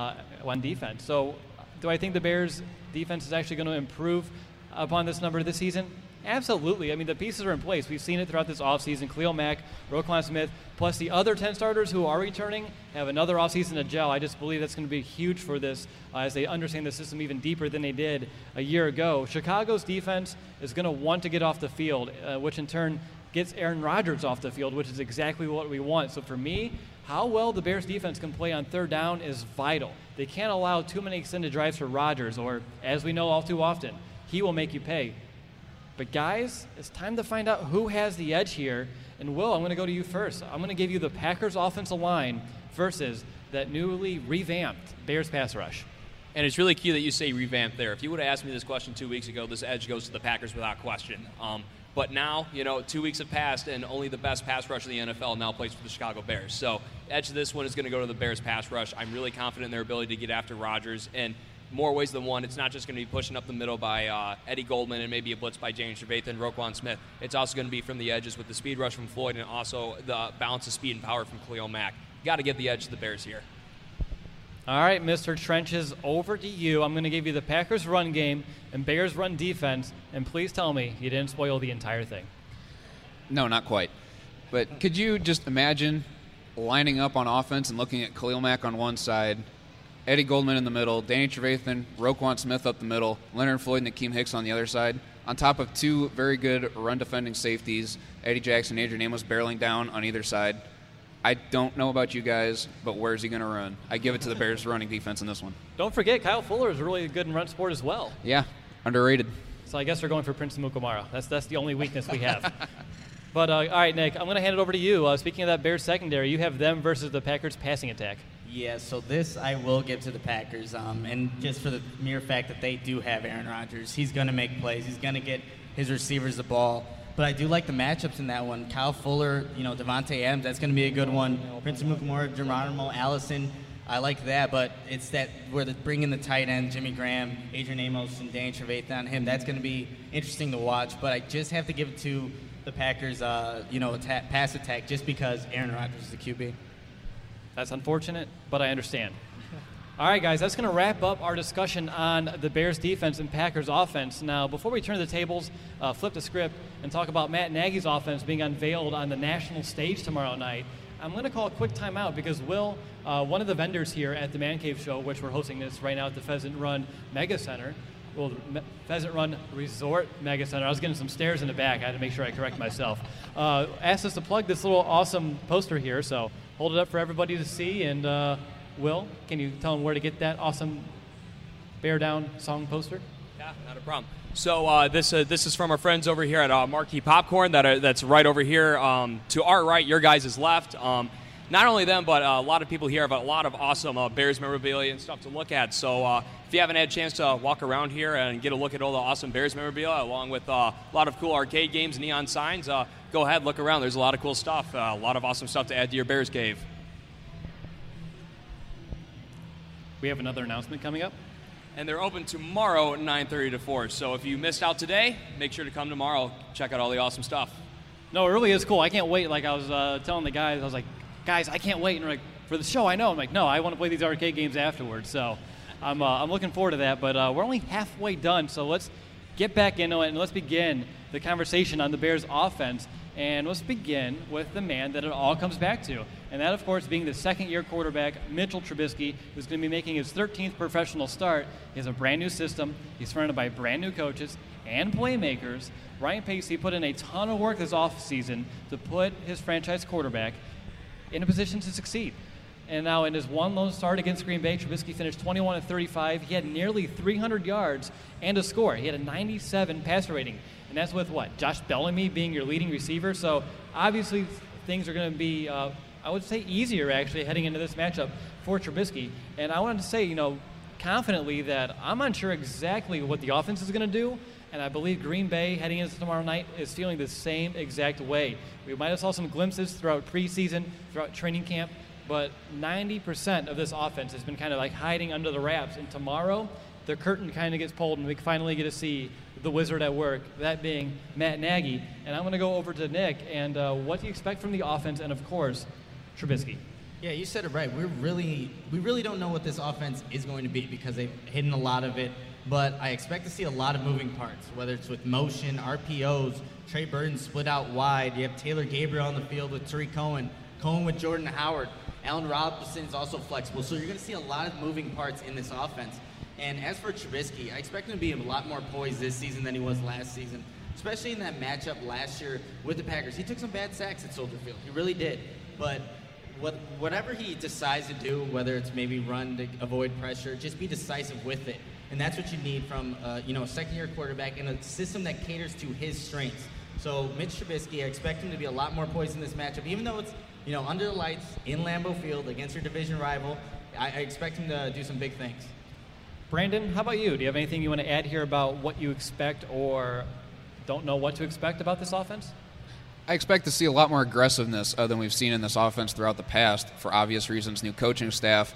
on defense. So do I think the Bears defense is actually going to improve upon this number this season? Absolutely. I mean, the pieces are in place. We've seen it throughout this offseason. Khalil Mack, Roquan Smith, plus the other 10 starters who are returning have another offseason to gel. I just believe that's going to be huge for this as they understand the system even deeper than they did a year ago. Chicago's defense is going to want to get off the field, which in turn gets Aaron Rodgers off the field, which is exactly what we want. So for me, how well the Bears defense can play on third down is vital. They can't allow too many extended drives for Rodgers, or as we know all too often, he will make you pay. But guys, it's time to find out who has the edge here. And Will, I'm going to go to you first. I'm going to give you the Packers offensive line versus that newly revamped Bears pass rush. And it's really key that you say revamped there. If you would have asked me this question 2 weeks ago, this edge goes to the Packers without question. But now, 2 weeks have passed, and only the best pass rush in the NFL now plays for the Chicago Bears. So edge of this one is going to go to the Bears pass rush. I'm really confident in their ability to get after Rodgers. And more ways than one, it's not just going to be pushing up the middle by Eddie Goldman and maybe a blitz by James Trevathan and Roquan Smith. It's also going to be from the edges with the speed rush from Floyd and also the balance of speed and power from Khalil Mack. Got to get the edge to the Bears here. All right, Mr. Trenches, over to you. I'm going to give you the Packers run game and Bears run defense, and please tell me you didn't spoil the entire thing. No, not quite. But could you just imagine lining up on offense and looking at Khalil Mack on one side, Eddie Goldman in the middle, Danny Trevathan, Roquan Smith up the middle, Leonard Floyd and Akeem Hicks on the other side, on top of 2 very good run-defending safeties, Eddie Jackson and Adrian Amos barreling down on either side. I don't know about you guys, but where's he going to run? I give it to the Bears running defense in this one. Don't forget, Kyle Fuller is really good in run support as well. Yeah, underrated. So I guess we're going for Prince Mukamara. That's the only weakness we have. But, all right, Nick, I'm going to hand it over to you. Speaking of that Bears secondary, you have them versus the Packers passing attack. Yeah, so this I will give to the Packers, and just for the mere fact that they do have Aaron Rodgers. He's going to make plays. He's going to get his receivers the ball. But I do like the matchups in that one. Kyle Fuller, Devontae Adams, that's going to be a good one. Prince Mukamara, Geronimo Allison, I like that. But it's that where they bring in the tight end, Jimmy Graham, Adrian Amos, and Danny Trevathan on him. That's going to be interesting to watch. But I just have to give it to the Packers, pass attack, just because Aaron Rodgers is the QB. That's unfortunate, but I understand. All right, guys, that's going to wrap up our discussion on the Bears defense and Packers offense. Now, before we turn the tables, flip the script, and talk about Matt Nagy's offense being unveiled on the national stage tomorrow night, I'm going to call a quick timeout because Will, one of the vendors here at the Man Cave Show, which we're hosting this right now at the Pheasant Run Mega Center, Pheasant Run Resort Mega Center. I was getting some stares in the back. I had to make sure I correct myself. Asked us to plug this little awesome poster here, so hold it up for everybody to see. And Will, can you tell them where to get that awesome Bear Down song poster? Yeah, not a problem. So this is from our friends over here at Marquee Popcorn that's right over here to our right, your guys' left. Not only them, but a lot of people here have a lot of awesome Bears memorabilia and stuff to look at. So if you haven't had a chance to walk around here and get a look at all the awesome Bears memorabilia, along with a lot of cool arcade games, neon signs, go ahead, look around. There's a lot of cool stuff, a lot of awesome stuff to add to your Bears cave. We have another announcement coming up. And they're open tomorrow at 9:30 to 4. So if you missed out today, make sure to come tomorrow. Check out all the awesome stuff. No, it really is cool. I can't wait. Like I was telling the guys, I was like, guys, I can't wait. And they're like, for the show, I know. I'm like, no, I want to play these arcade games afterwards. So I'm looking forward to that. But we're only halfway done. So let's get back into it and let's begin the conversation on the Bears offense. And let's begin with the man that it all comes back to. And that, of course, being the second-year quarterback, Mitchell Trubisky, who's going to be making his 13th professional start. He has a brand-new system. He's surrounded by brand-new coaches and playmakers. Ryan Pacey put in a ton of work this offseason to put his franchise quarterback in a position to succeed. And now in his one lone start against Green Bay, Trubisky finished 21-35. He had nearly 300 yards and a score. He had a 97 passer rating. And that's with what? Josh Bellamy being your leading receiver. So obviously things are going to be, I would say, easier actually heading into this matchup for Trubisky. And I wanted to say, confidently that I'm unsure exactly what the offense is going to do. And I believe Green Bay heading into tomorrow night is feeling the same exact way. We might have saw some glimpses throughout preseason, throughout training camp, but 90% of this offense has been kind of like hiding under the wraps. And tomorrow, the curtain kind of gets pulled and we finally get to see the wizard at work, that being Matt Nagy. And I'm going to go over to Nick and what do you expect from the offense and, of course, Trubisky? Yeah, you said it right. We really don't know what this offense is going to be because they've hidden a lot of it. But I expect to see a lot of moving parts, whether it's with motion, RPOs, Trey Burton split out wide. You have Taylor Gabriel on the field with Tariq Cohen, Cohen with Jordan Howard. Allen Robinson is also flexible. So you're going to see a lot of moving parts in this offense. And as for Trubisky, I expect him to be a lot more poised this season than he was last season, especially in that matchup last year with the Packers. He took some bad sacks at Soldier Field. He really did. But whatever he decides to do, whether it's maybe run to avoid pressure, just be decisive with it. And that's what you need from a second-year quarterback in a system that caters to his strengths. So Mitch Trubisky, I expect him to be a lot more poised in this matchup, even though it's under the lights in Lambeau Field against your division rival. I expect him to do some big things. Brandon, how about you? Do you have anything you want to add here about what you expect or don't know what to expect about this offense? I expect to see a lot more aggressiveness than we've seen in this offense throughout the past for obvious reasons, new coaching staff.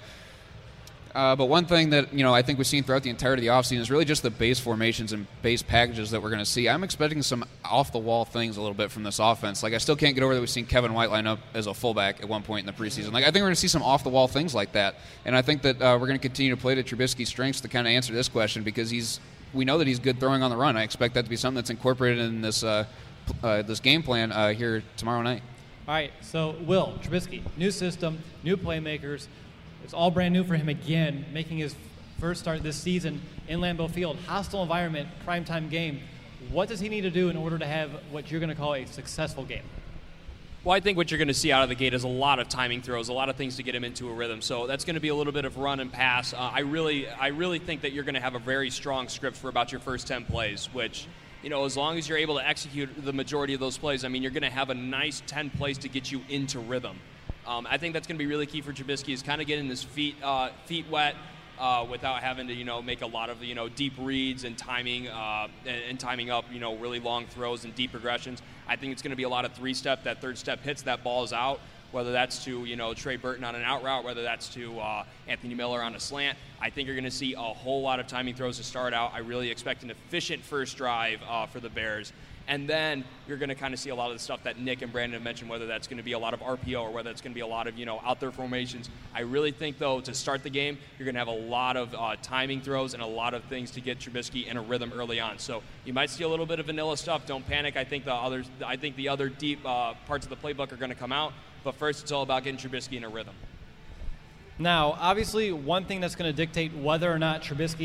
But one thing that I think we've seen throughout the entirety of the offseason is really just the base formations and base packages that we're going to see. I'm expecting some off-the-wall things a little bit from this offense. Like, I still can't get over that we've seen Kevin White line up as a fullback at one point in the preseason. Like, I think we're going to see some off-the-wall things like that. And I think that we're going to continue to play to Trubisky's strengths to kind of answer this question because we know that he's good throwing on the run. I expect that to be something that's incorporated in this this game plan here tomorrow night. All right, so Will, Trubisky, new system, new playmakers. It's all brand new for him again, making his first start this season in Lambeau Field. Hostile environment, primetime game. What does he need to do in order to have what you're going to call a successful game? Well, I think what you're going to see out of the gate is a lot of timing throws, a lot of things to get him into a rhythm. So that's going to be a little bit of run and pass. I really think that you're going to have a very strong script for about your first 10 plays, which, as long as you're able to execute the majority of those plays, you're going to have a nice 10 plays to get you into rhythm. I think that's going to be really key for Trubisky is kind of getting his feet wet without having to make a lot of deep reads and timing and timing up really long throws and deep progressions. I think it's going to be a lot of three-step. That third step hits, that ball is out. Whether that's to Trey Burton on an out route, whether that's to Anthony Miller on a slant. I think you're going to see a whole lot of timing throws to start out. I really expect an efficient first drive for the Bears. And then you're going to kind of see a lot of the stuff that Nick and Brandon have mentioned, whether that's going to be a lot of RPO or whether it's going to be a lot of, out there formations. I really think, though, to start the game, you're going to have a lot of timing throws and a lot of things to get Trubisky in a rhythm early on. So you might see a little bit of vanilla stuff. Don't panic. I think the other deep parts of the playbook are going to come out. But first, it's all about getting Trubisky in a rhythm. Now, obviously, one thing that's going to dictate whether or not Trubisky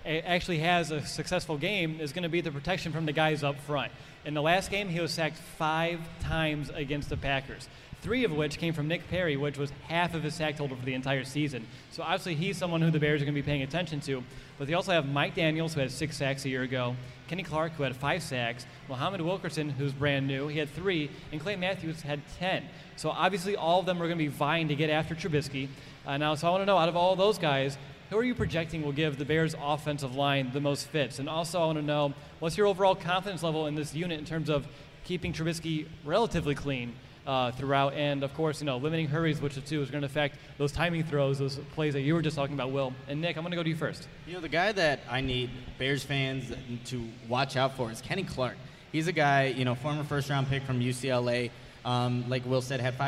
actually has a successful game is going to be the protection from the guys up front. In the last game, he was sacked 5 times against the Packers, 3 of which came from Nick Perry, which was half of his sack total for the entire season. So obviously he's someone who the Bears are going to be paying attention to. But they also have Mike Daniels, who had 6 sacks a year ago, Kenny Clark, who had 5 sacks, Muhammad Wilkerson, who's brand new, he had 3, and Clay Matthews had 10. So obviously all of them are going to be vying to get after Trubisky. So I want to know, out of all those guys, who are you projecting will give the Bears' offensive line the most fits? And also I want to know, what's your overall confidence level in this unit in terms of keeping Trubisky relatively clean throughout, and of course, limiting hurries, which too is going to affect those timing throws, those plays that you were just talking about, Will. And Nick, I'm going to go to you first. The guy that I need Bears fans to watch out for is Kenny Clark. He's a guy, former first-round pick from UCLA. Like Will said, had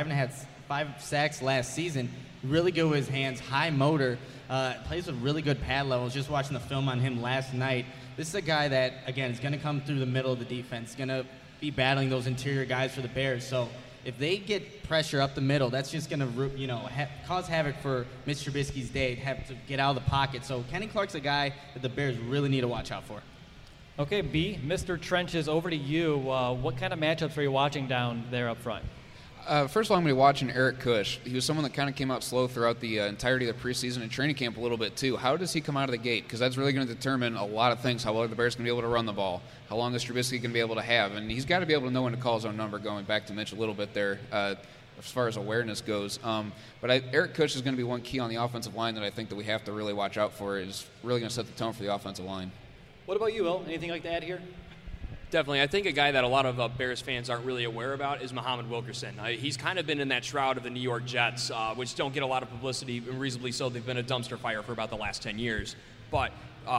5 sacks last season. Really good with his hands, high motor, plays with really good pad levels. Just watching the film on him last night. This is a guy that, again, is going to come through the middle of the defense, going to be battling those interior guys for the Bears. So if they get pressure up the middle, that's just going to cause havoc for Mitch Trubisky's day, have to get out of the pocket. So Kenny Clark's a guy that the Bears really need to watch out for. Okay, B, Mr. Trenches, over to you. What kind of matchups are you watching down there up front? First of all, I'm going to be watching Eric Kush. He was someone that kind of came out slow throughout the entirety of the preseason and training camp a little bit too. How does he come out of the gate? Because that's really going to determine a lot of things, how well the Bears going to be able to run the ball, how long is Trubisky going to be able to have. And he's got to be able to know when to call his own number, going back to Mitch a little bit there as far as awareness goes. But Eric Kush is going to be one key on the offensive line that I think that we have to really watch out for. Is really going to set the tone for the offensive line. What about you, Will? Anything like to add here? Definitely. I think a guy that a lot of Bears fans aren't really aware about is Muhammad Wilkerson. He's kind of been in that shroud of the New York Jets, which don't get a lot of publicity, and reasonably so. They've been a dumpster fire for about the last 10 years. But,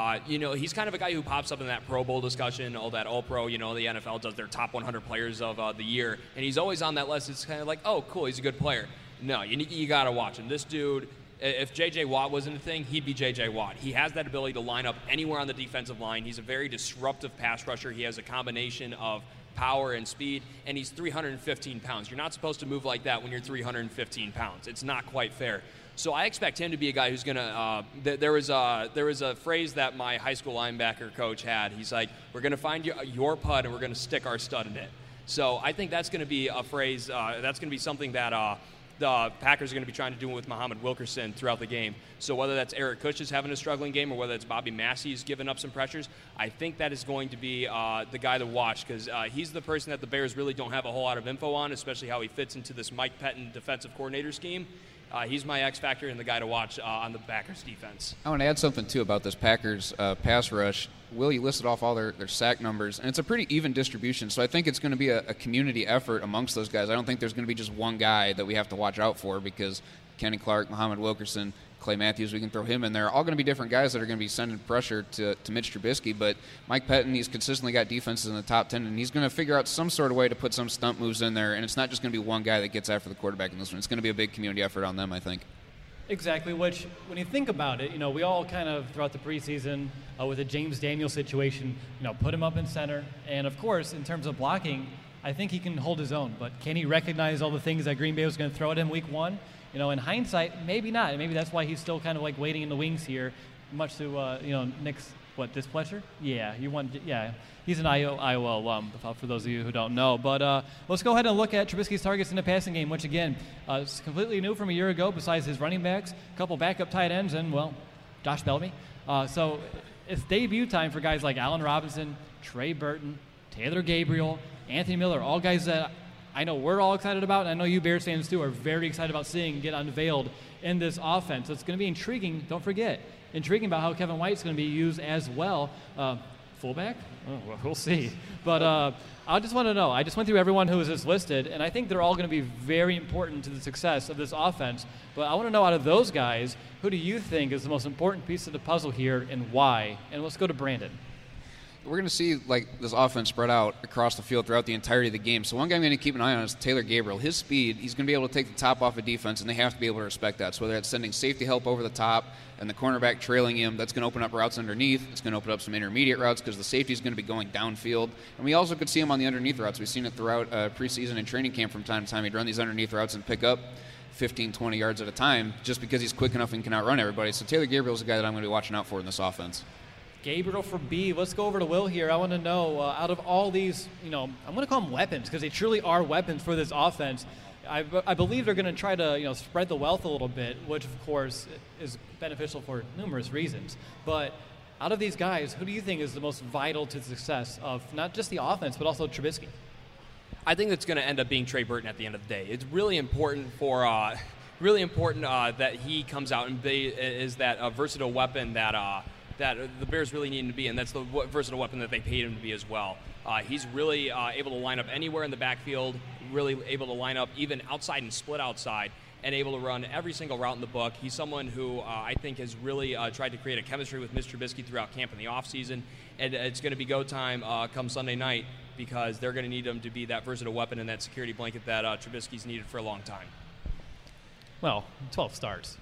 he's kind of a guy who pops up in that Pro Bowl discussion, all that All-Pro, the NFL does their top 100 players of the year, and he's always on that list. It's kind of like, oh, cool, he's a good player. No, you got to watch him. This dude, if J.J. Watt wasn't a thing, he'd be J.J. Watt. He has that ability to line up anywhere on the defensive line. He's a very disruptive pass rusher. He has a combination of power and speed, and he's 315 pounds. You're not supposed to move like that when you're 315 pounds. It's not quite fair. So I expect him to be a guy who's going to there was a phrase that my high school linebacker coach had. He's like, we're going to find your pud, and we're going to stick our stud in it. So I think that's going to be a phrase, that's going to be something that the Packers are going to be trying to do with Muhammad Wilkerson throughout the game. So whether that's Eric Kush is having a struggling game or whether it's Bobby Massey's giving up some pressures, I think that is going to be the guy to watch because he's the person that the Bears really don't have a whole lot of info on, especially how he fits into this Mike Pettin defensive coordinator scheme. He's my X factor and the guy to watch on the Packers defense. I want to add something, too, about this Packers pass rush. Will, you listed off all their sack numbers, and it's a pretty even distribution, so I think it's going to be a community effort amongst those guys. I don't think there's going to be just one guy that we have to watch out for because Kenny Clark, Muhammad Wilkerson, Clay Matthews, we can throw him in there. All going to be different guys that are going to be sending pressure to Mitch Trubisky, but Mike Pettin, he's consistently got defenses in the top 10, and he's going to figure out some sort of way to put some stunt moves in there, and it's not just going to be one guy that gets after the quarterback in this one. It's going to be a big community effort on them, I think. Exactly, which, when you think about it, we all kind of, throughout the preseason, with the James Daniels situation, put him up in center. And, of course, in terms of blocking, I think he can hold his own. But can he recognize all the things that Green Bay was going to throw at him week one? In hindsight, maybe not. And maybe that's why he's still kind of like waiting in the wings here, much to, Nick's, displeasure? Yeah, he's an Iowa alum, for those of you who don't know. But let's go ahead and look at Trubisky's targets in the passing game, which, again, is completely new from a year ago, besides his running backs, a couple backup tight ends, and, Josh Bellamy. So it's debut time for guys like Allen Robinson, Trey Burton, Taylor Gabriel, Anthony Miller, all guys that I know we're all excited about, and I know you Bears fans, too, are very excited about seeing get unveiled in this offense. So it's going to be intriguing. Don't forget, intriguing about how Kevin White's going to be used as well. Fullback? Oh, well, we'll see. But I just want to know. I just went through everyone who was listed, and I think they're all going to be very important to the success of this offense. But I want to know, out of those guys, who do you think is the most important piece of the puzzle here and why? And let's go to Brandon. We're going to see this offense spread out across the field throughout the entirety of the game. So one guy I'm going to keep an eye on is Taylor Gabriel. His speed, he's going to be able to take the top off of defense, and they have to be able to respect that. So whether it's sending safety help over the top and the cornerback trailing him, that's going to open up routes underneath. It's going to open up some intermediate routes because the safety is going to be going downfield. And we also could see him on the underneath routes. We've seen it throughout preseason and training camp from time to time. He'd run these underneath routes and pick up 15, 20 yards at a time just because he's quick enough and can outrun everybody. So Taylor Gabriel is a guy that I'm going to be watching out for in this offense. Gabriel for B. Let's go over to Will here. I want to know, out of all these, I'm going to call them weapons because they truly are weapons for this offense. I believe they're going to try to spread the wealth a little bit, which of course is beneficial for numerous reasons. But out of these guys, who do you think is the most vital to the success of not just the offense but also Trubisky? I think it's going to end up being Trey Burton at the end of the day. It's really important for that he comes out and is that versatile weapon that the Bears really need him to be, and that's the versatile weapon that they paid him to be as well. He's really able to line up anywhere in the backfield, really able to line up even outside and split outside, and able to run every single route in the book. He's someone who I think has really tried to create a chemistry with Mr. Trubisky throughout camp in the offseason, and it's going to be go time come Sunday night because they're going to need him to be that versatile weapon and that security blanket that Trubisky's needed for a long time. Well, 12 starts.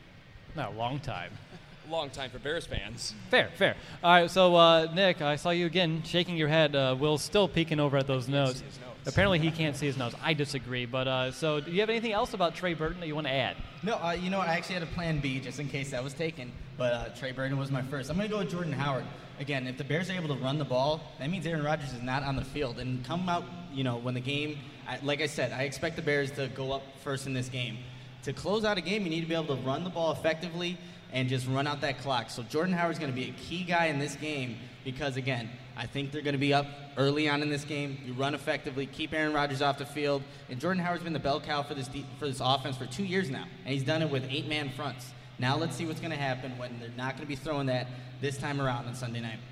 Not a long time. Long time for Bears fans. Fair. All right, so Nick, I saw you again shaking your head. Will's still peeking over at those notes. Apparently he can't see his notes. I disagree. But so do you have anything else about Trey Burton that you want to add? No, I actually had a plan B just in case that was taken. But Trey Burton was my first. I'm going to go with Jordan Howard. Again, if the Bears are able to run the ball, that means Aaron Rodgers is not on the field. And come out, when the game, like I said, I expect the Bears to go up first in this game. To close out a game, you need to be able to run the ball effectively and just run out that clock. So Jordan Howard's going to be a key guy in this game because, again, I think they're going to be up early on in this game. You run effectively, keep Aaron Rodgers off the field. And Jordan Howard's been the bell cow for this offense for 2 years now, and he's done it with 8-man fronts. Now let's see what's going to happen when they're not going to be throwing that this time around on Sunday night.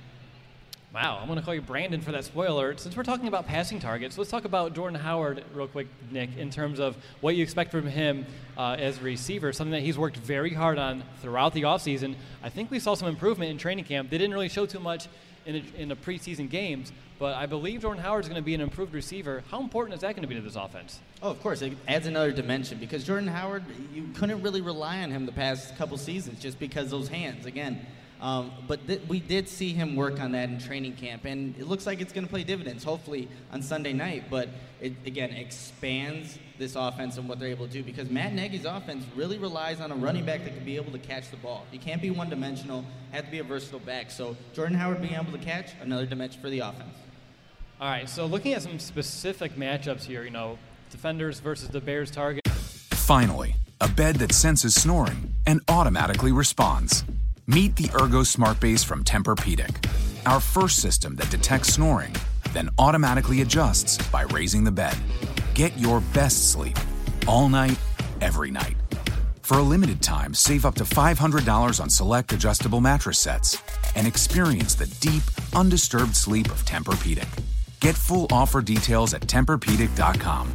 Wow, I'm going to call you Brandon for that spoiler. Since we're talking about passing targets, let's talk about Jordan Howard real quick, Nick, in terms of what you expect from him as a receiver, something that he's worked very hard on throughout the offseason. I think we saw some improvement in training camp. They didn't really show too much in the preseason games, but I believe Jordan Howard's going to be an improved receiver. How important is that going to be to this offense? Oh, of course. It adds another dimension because Jordan Howard, you couldn't really rely on him the past couple seasons just because those hands, again. But we did see him work on that in training camp, and it looks like it's going to play dividends, hopefully, on Sunday night. But it, again, expands this offense and what they're able to do because Matt Nagy's offense really relies on a running back that can be able to catch the ball. You can't be one-dimensional, have to be a versatile back. So Jordan Howard being able to catch, another dimension for the offense. All right, so looking at some specific matchups here, defenders versus the Bears target. Finally, a bed that senses snoring and automatically responds. Meet the Ergo Smart Base from Tempur-Pedic, our first system that detects snoring, then automatically adjusts by raising the bed. Get your best sleep all night, every night. For a limited time, save up to $500 on select adjustable mattress sets and experience the deep, undisturbed sleep of Tempur-Pedic. Get full offer details at TempurPedic.com.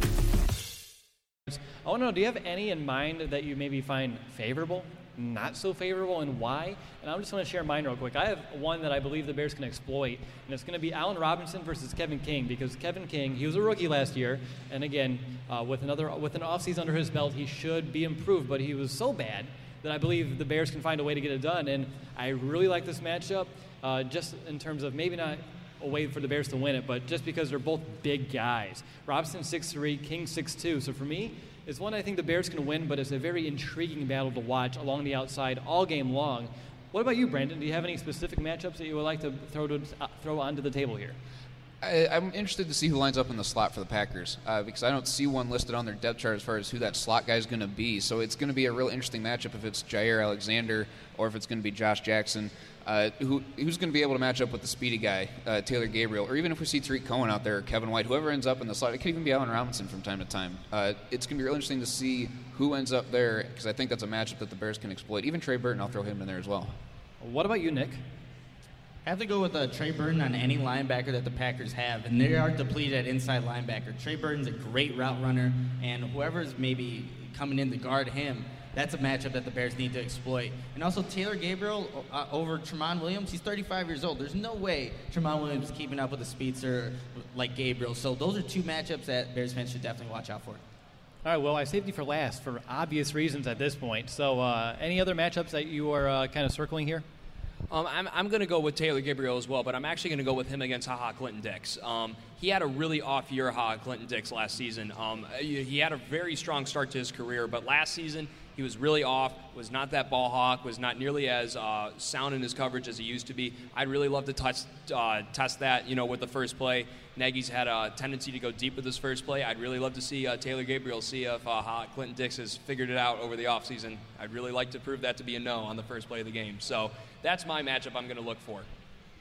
I want to know, do you have any in mind that you maybe find favorable, not so favorable, and why? And I just want to share mine real quick. I have one that I believe the Bears can exploit, and it's going to be Allen Robinson versus Kevin King, because Kevin King, he was a rookie last year, and again, with an offseason under his belt, he should be improved, but he was so bad that I believe the Bears can find a way to get it done, and I really like this matchup, just in terms of maybe not a way for the Bears to win it, but just because they're both big guys. Robinson 6'3", King 6'2", so for me, it's one I think the Bears can win, but it's a very intriguing battle to watch along the outside all game long. What about you, Brandon? Do you have any specific matchups that you would like to throw onto the table here? I'm interested to see who lines up in the slot for the Packers because I don't see one listed on their depth chart as far as who that slot guy is going to be. So it's going to be a real interesting matchup if it's Jair Alexander or if it's going to be Josh Jackson. Who's going to be able to match up with the speedy guy, Taylor Gabriel, or even if we see Tariq Cohen out there, or Kevin White, whoever ends up in the slot. It could even be Allen Robinson from time to time. It's going to be real interesting to see who ends up there because I think that's a matchup that the Bears can exploit. Even Trey Burton, I'll throw him in there as well. What about you, Nick? I have to go with Trey Burton on any linebacker that the Packers have, and they are depleted at inside linebacker. Trey Burton's a great route runner, and whoever's maybe coming in to guard him, that's a matchup that the Bears need to exploit. And also Taylor Gabriel over Tramon Williams, he's 35 years old. There's no way Tramon Williams is keeping up with a speedster like Gabriel. So those are two matchups that Bears fans should definitely watch out for. All right, well, I saved you for last for obvious reasons at this point. So any other matchups that you are kind of circling here? I'm going to go with Taylor Gabriel as well, but I'm actually going to go with him against HaHa Clinton-Dix. He had a really off year, HaHa Clinton-Dix, last season. He had a very strong start to his career, but last season He was really off, was not that ball hawk, was not nearly as sound in his coverage as he used to be. I'd really love to test that, with the first play. Nagy's had a tendency to go deep with his first play. I'd really love to see Taylor Gabriel see if Clinton Dix has figured it out over the offseason. I'd really like to prove that to be a no on the first play of the game. So that's my matchup I'm going to look for.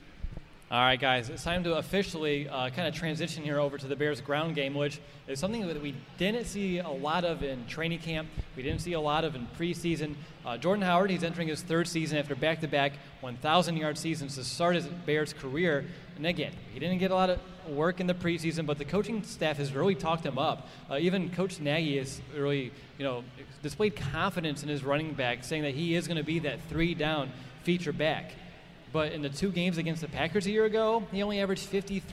All right, guys, it's time to officially kind of transition here over to the Bears' ground game, which is something that we didn't see a lot of in training camp. We didn't see a lot of in preseason. Jordan Howard, he's entering his third season after back-to-back 1,000-yard seasons to start his Bears' career. And again, he didn't get a lot of work in the preseason, but the coaching staff has really talked him up. Even Coach Nagy has really, displayed confidence in his running back, saying that he is going to be that three-down feature back. But in the 2 games against the Packers a year ago, he only averaged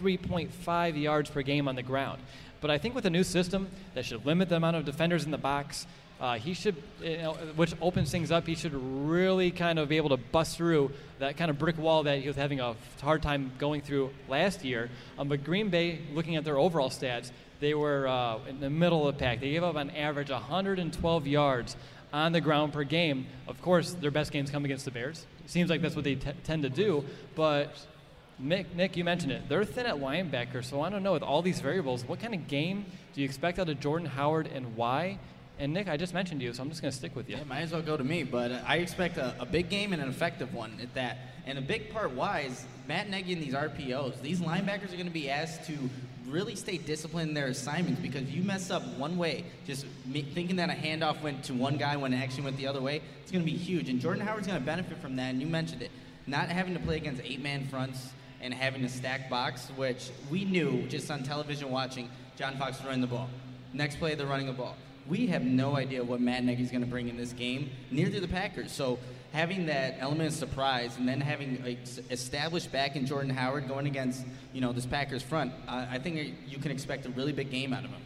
53.5 yards per game on the ground. But I think with a new system that should limit the amount of defenders in the box, he should, which opens things up, he should really kind of be able to bust through that kind of brick wall that he was having a hard time going through last year. But Green Bay, looking at their overall stats, they were in the middle of the pack. They gave up on average 112 yards on the ground per game. Of course, their best games come against the Bears. It seems like that's what they tend to do. But, Nick, you mentioned it. They're thin at linebacker, so I don't know. With all these variables, what kind of game do you expect out of Jordan Howard and why? And, Nick, I just mentioned you, so I'm just going to stick with you. Yeah, might as well go to me, but I expect a big game and an effective one at that. And a big part why is Matt Nagy and these RPOs. These linebackers are going to be asked to really stay disciplined in their assignments, because you mess up one way, just thinking that a handoff went to one guy when it actually went the other way, it's going to be huge. And Jordan Howard's going to benefit from that, and you mentioned it. Not having to play against 8-man fronts and having to stack box, which we knew just on television watching John Fox running the ball. Next play, they're running the ball. We have no idea what Matt Nagy's going to bring in this game, neither do the Packers. So having that element of surprise and then having established back in Jordan Howard going against, this Packers front, I think you can expect a really big game out of him.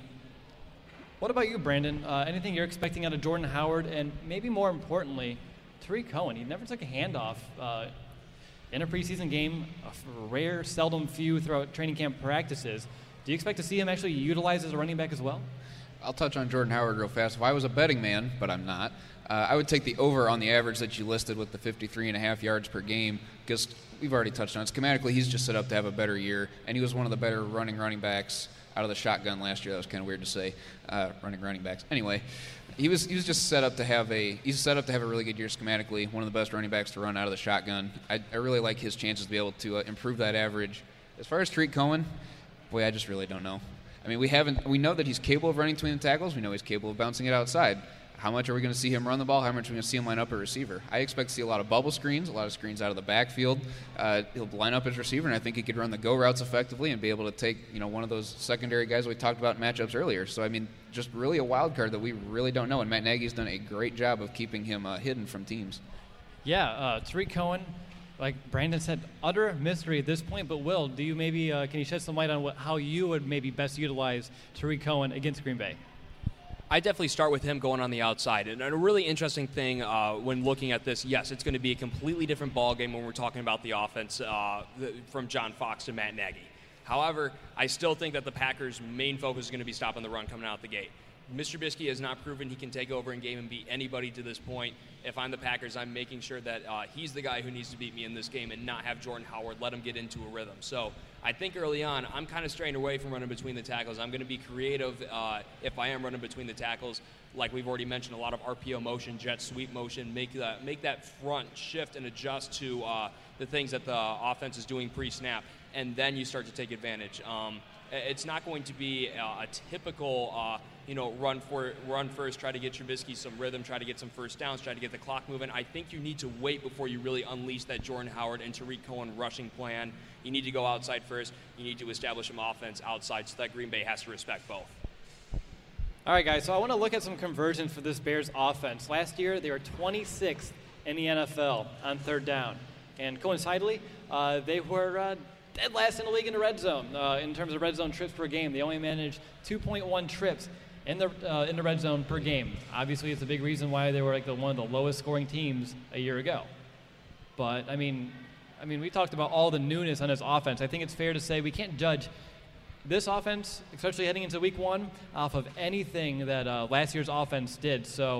What about you, Brandon? Anything you're expecting out of Jordan Howard? And maybe more importantly, Tariq Cohen. He never took a handoff in a preseason game, a rare, seldom few throughout training camp practices. Do you expect to see him actually utilized as a running back as well? I'll touch on Jordan Howard real fast. If I was a betting man, but I'm not, I would take the over on the average that you listed with the 53.5 yards per game, because we've already touched on it. Schematically, he's just set up to have a better year, and he was one of the better running backs out of the shotgun last year. That was kind of weird to say, running backs. Anyway, he was just set up to have a really good year schematically. One of the best running backs to run out of the shotgun. I really like his chances to be able to improve that average. As far as Tariq Cohen, boy, I just really don't know. I mean, we know that he's capable of running between the tackles. We know he's capable of bouncing it outside. How much are we going to see him run the ball? How much are we going to see him line up a receiver? I expect to see a lot of bubble screens, a lot of screens out of the backfield. He'll line up his receiver, and I think he could run the go routes effectively and be able to take, one of those secondary guys we talked about in matchups earlier. So, I mean, just really a wild card that we really don't know, and Matt Nagy's done a great job of keeping him hidden from teams. Yeah, Tariq Cohen, like Brandon said, utter mystery at this point. But Will, do you maybe can you shed some light on how you would maybe best utilize Tariq Cohen against Green Bay? I definitely start with him going on the outside. And a really interesting thing when looking at this, yes, it's going to be a completely different ball game when we're talking about the offense from John Fox to Matt Nagy. However, I still think that the Packers' main focus is going to be stopping the run coming out the gate. Mr. Trubisky has not proven he can take over in game and beat anybody to this point. If I'm the Packers, I'm making sure that he's the guy who needs to beat me in this game and not have Jordan Howard let him get into a rhythm. So I think early on, I'm kind of straying away from running between the tackles. I'm going to be creative if I am running between the tackles. Like we've already mentioned, a lot of RPO motion, jet sweep motion, make that front shift and adjust to the things that the offense is doing pre-snap, and then you start to take advantage. It's not going to be a typical run first, try to get Trubisky some rhythm, try to get some first downs, try to get the clock moving. I think you need to wait before you really unleash that Jordan Howard and Tariq Cohen rushing plan. You need to go outside first. You need to establish some offense outside so that Green Bay has to respect both. All right, guys, so I want to look at some conversions for this Bears offense. Last year, they were 26th in the NFL on third down. And coincidentally, they were dead last in the league in the red zone in terms of red zone trips per game. They only managed 2.1 trips in the red zone per game. Obviously, it's a big reason why they were one of the lowest scoring teams a year ago. But I mean, we talked about all the newness on this offense. I think it's fair to say we can't judge this offense, especially heading into week one, off of anything that last year's offense did. So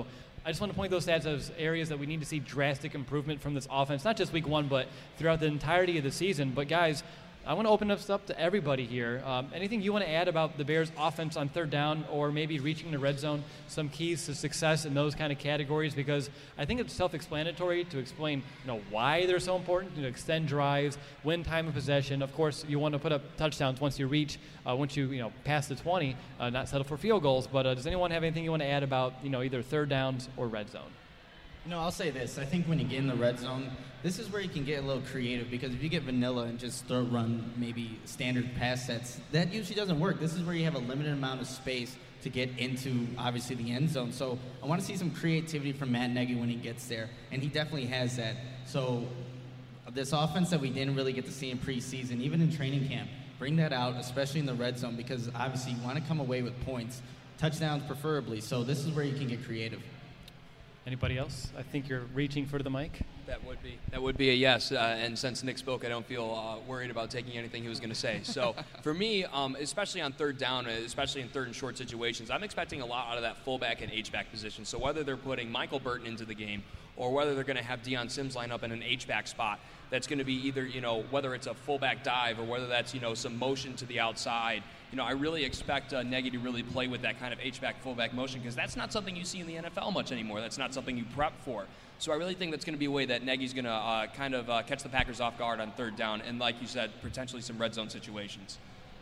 I just want to point those stats as areas that we need to see drastic improvement from this offense, not just week one, but throughout the entirety of the season. But, guys, I want to open this up to everybody here. Anything you want to add about the Bears' offense on third down or maybe reaching the red zone, some keys to success in those kind of categories? Because I think it's self-explanatory to explain why they're so important, to extend drives, win time of possession. Of course, you want to put up touchdowns once you pass the 20, not settle for field goals. But does anyone have anything you want to add about either third downs or red zone? I'll say this. I think when you get in the red zone, this is where you can get a little creative, because if you get vanilla and just run maybe standard pass sets, that usually doesn't work. This is where you have a limited amount of space to get into, obviously, the end zone. So I want to see some creativity from Matt Nagy when he gets there, and he definitely has that. So this offense that we didn't really get to see in preseason, even in training camp, bring that out, especially in the red zone, because obviously you want to come away with points, touchdowns preferably. So this is where you can get creative. Anybody else? I think you're reaching for the mic. That would be a yes. And since Nick spoke, I don't feel worried about taking anything he was going to say. So for me, especially on third down, especially in third and short situations, I'm expecting a lot out of that fullback and H-back position. So whether they're putting Michael Burton into the game or whether they're going to have Deion Sims line up in an H-back spot, that's going to be either, whether it's a fullback dive or whether that's, some motion to the outside. I really expect Nagy to really play with that kind of H-back, fullback motion, because that's not something you see in the NFL much anymore. That's not something you prep for. So I really think that's going to be a way that Nagy's going to catch the Packers off guard on third down and, like you said, potentially some red zone situations.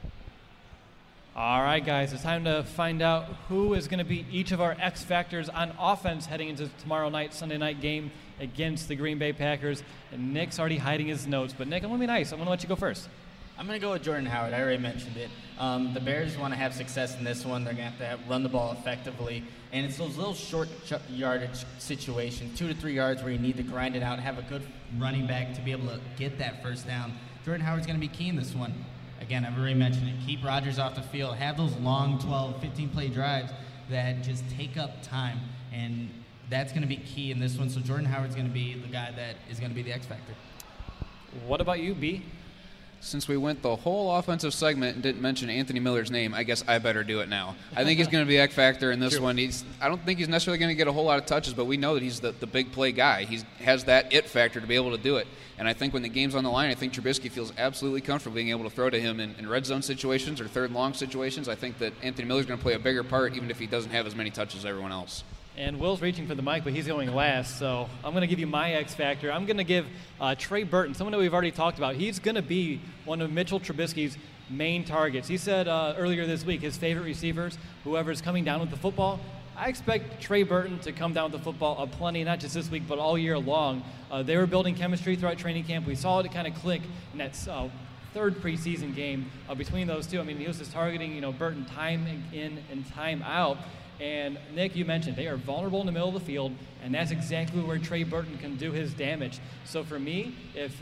All right, guys, it's time to find out who is going to be each of our X factors on offense heading into tomorrow night, Sunday night game against the Green Bay Packers. And Nick's already hiding his notes. But, Nick, I'm going to be nice. I'm going to let you go first. I'm going to go with Jordan Howard. I already mentioned it. The Bears want to have success in this one. They're going to have to run the ball effectively. And it's those little short yardage situations, 2 to 3 yards, where you need to grind it out and have a good running back to be able to get that first down. Jordan Howard's going to be key in this one. Again, I've already mentioned it. Keep Rodgers off the field. Have those long 12, 15-play drives that just take up time. And that's going to be key in this one. So Jordan Howard's going to be the guy that is going to be the X factor. What about you, B? Since we went the whole offensive segment and didn't mention Anthony Miller's name, I guess I better do it now. I think he's going to be X factor in this one. I don't think he's necessarily going to get a whole lot of touches, but we know that he's the big play guy. He has that it factor to be able to do it. And I think when the game's on the line, I think Trubisky feels absolutely comfortable being able to throw to him in red zone situations or third and long situations. I think that Anthony Miller's going to play a bigger part, even if he doesn't have as many touches as everyone else. And Will's reaching for the mic, but he's going last, so I'm going to give you my X factor. I'm going to give Trey Burton, someone that we've already talked about. He's going to be one of Mitchell Trubisky's main targets. He said earlier this week his favorite receivers, whoever's coming down with the football. I expect Trey Burton to come down with the football plenty, not just this week, but all year long. They were building chemistry throughout training camp. We saw it kind of click in that third preseason game between those two. I mean, he was just targeting, Burton time in and time out. And Nick, you mentioned they are vulnerable in the middle of the field, and that's exactly where Trey Burton can do his damage. So for me, if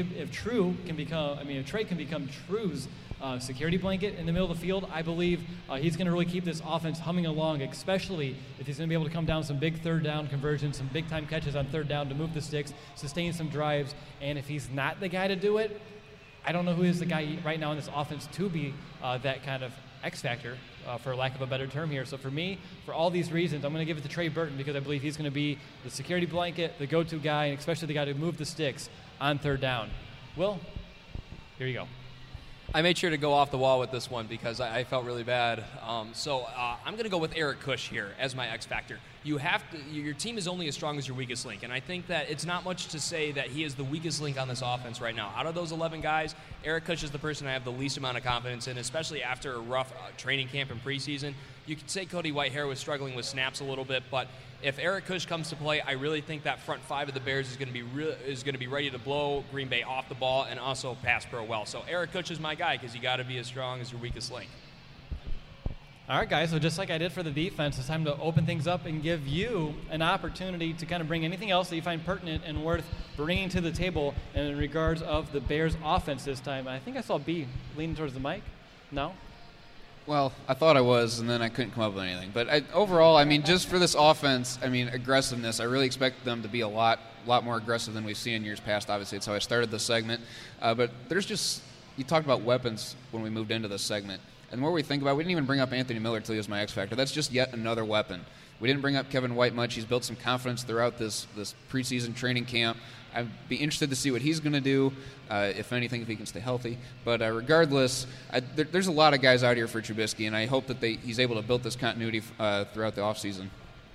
Trey can become True's security blanket in the middle of the field, I believe he's going to really keep this offense humming along, especially if he's going to be able to come down some big third down conversions, some big time catches on third down to move the sticks, sustain some drives. And if he's not the guy to do it, I don't know who is the guy right now in this offense to be that kind of X factor, for lack of a better term here. So for me, for all these reasons, I'm going to give it to Trey Burton because I believe he's going to be the security blanket, the go-to guy, and especially the guy to move the sticks on third down. Will, here you go. I made sure to go off the wall with this one because I felt really bad. So I'm going to go with Eric Kush here as my X factor. Your team is only as strong as your weakest link, and I think that it's not much to say that he is the weakest link on this offense right now. Out of those 11 guys, Eric Kush is the person I have the least amount of confidence in, especially after a rough training camp and preseason. You could say Cody Whitehair was struggling with snaps a little bit, but if Eric Kush comes to play, I really think that front five of the Bears is going to be ready to blow Green Bay off the ball and also pass pro well. So Eric Kush is my guy because you got to be as strong as your weakest link. All right, guys, so just like I did for the defense, it's time to open things up and give you an opportunity to kind of bring anything else that you find pertinent and worth bringing to the table in regards of the Bears' offense this time. I think I saw B leaning towards the mic. No? Well, I thought I was, and then I couldn't come up with anything. But overall, just for this offense, aggressiveness, I really expect them to be a lot more aggressive than we've seen in years past. Obviously, it's how I started this segment. But there's just – you talked about weapons when we moved into this segment. And the more we think about it, we didn't even bring up Anthony Miller till he was my X factor. That's just yet another weapon. We didn't bring up Kevin White much. He's built some confidence throughout this preseason training camp. I'd be interested to see what he's going to do, if anything, if he can stay healthy. But regardless, there's a lot of guys out here for Trubisky, and I hope that he's able to build this continuity throughout the offseason.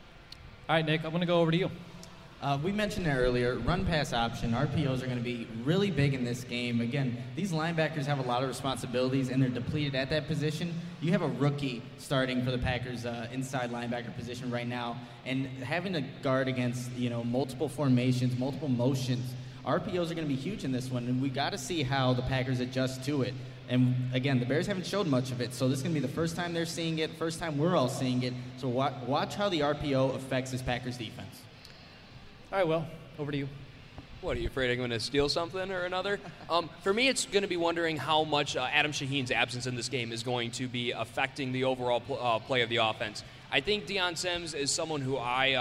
All right, Nick, I'm going to go over to you. We mentioned it earlier, run-pass option, RPOs are going to be really big in this game. Again, these linebackers have a lot of responsibilities, and they're depleted at that position. You have a rookie starting for the Packers inside linebacker position right now, and having to guard against multiple formations, multiple motions, RPOs are going to be huge in this one, and we got to see how the Packers adjust to it. And again, the Bears haven't showed much of it, so this is going to be the first time they're seeing it, first time we're all seeing it. So watch how the RPO affects this Packers defense. All right, Will, over to you. What, are you afraid I'm going to steal something or another? For me, it's going to be wondering how much Adam Shaheen's absence in this game is going to be affecting the overall play of the offense. I think Deion Sims is someone who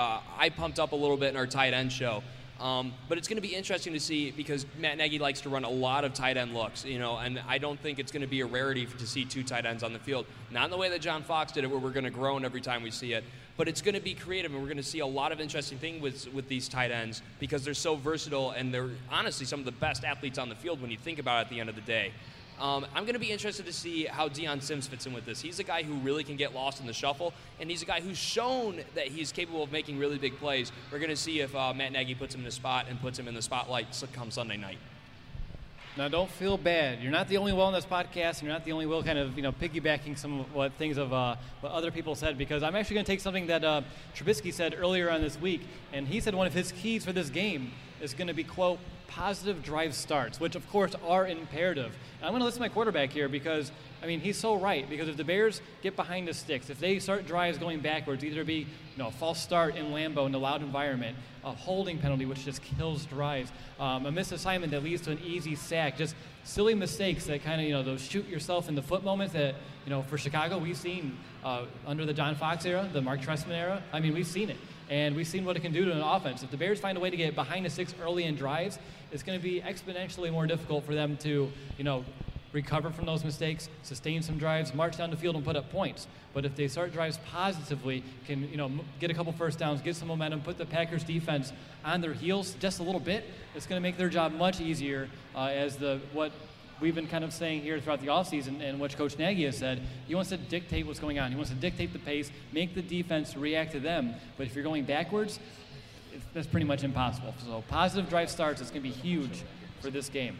I pumped up a little bit in our tight end show. But it's going to be interesting to see because Matt Nagy likes to run a lot of tight end looks, and I don't think it's going to be a rarity to see two tight ends on the field. Not in the way that John Fox did it, where we're going to groan every time we see it, but it's going to be creative, and we're going to see a lot of interesting things with these tight ends because they're so versatile, and they're honestly some of the best athletes on the field when you think about it at the end of the day. I'm going to be interested to see how Deion Sims fits in with this. He's a guy who really can get lost in the shuffle, and he's a guy who's shown that he's capable of making really big plays. We're going to see if Matt Nagy puts him in the spot and puts him in the spotlight come Sunday night. Now, don't feel bad. You're not the only Will on this podcast, and you're not the only Will kind of, piggybacking some of what other people said, because I'm actually going to take something that Trubisky said earlier on this week, and he said one of his keys for this game is going to be, quote, positive drive starts, which, of course, are imperative. And I'm going to listen to my quarterback here because, he's so right. Because if the Bears get behind the sticks, if they start drives going backwards, either be a false start in Lambeau in a loud environment, a holding penalty, which just kills drives, a missed assignment that leads to an easy sack, just silly mistakes that kind of, those shoot yourself in the foot moments that, for Chicago, we've seen under the John Fox era, the Mark Trestman era. We've seen it. And we've seen what it can do to an offense. If the Bears find a way to get behind the sticks early in drives, it's going to be exponentially more difficult for them to, recover from those mistakes, sustain some drives, march down the field and put up points. But if they start drives positively, can, get a couple first downs, get some momentum, put the Packers defense on their heels just a little bit, it's going to make their job much easier what we've been kind of saying here throughout the offseason and what Coach Nagy has said. He wants to dictate what's going on. He wants to dictate the pace, make the defense react to them. But if you're going backwards, that's pretty much impossible. So positive drive starts is going to be huge for this game.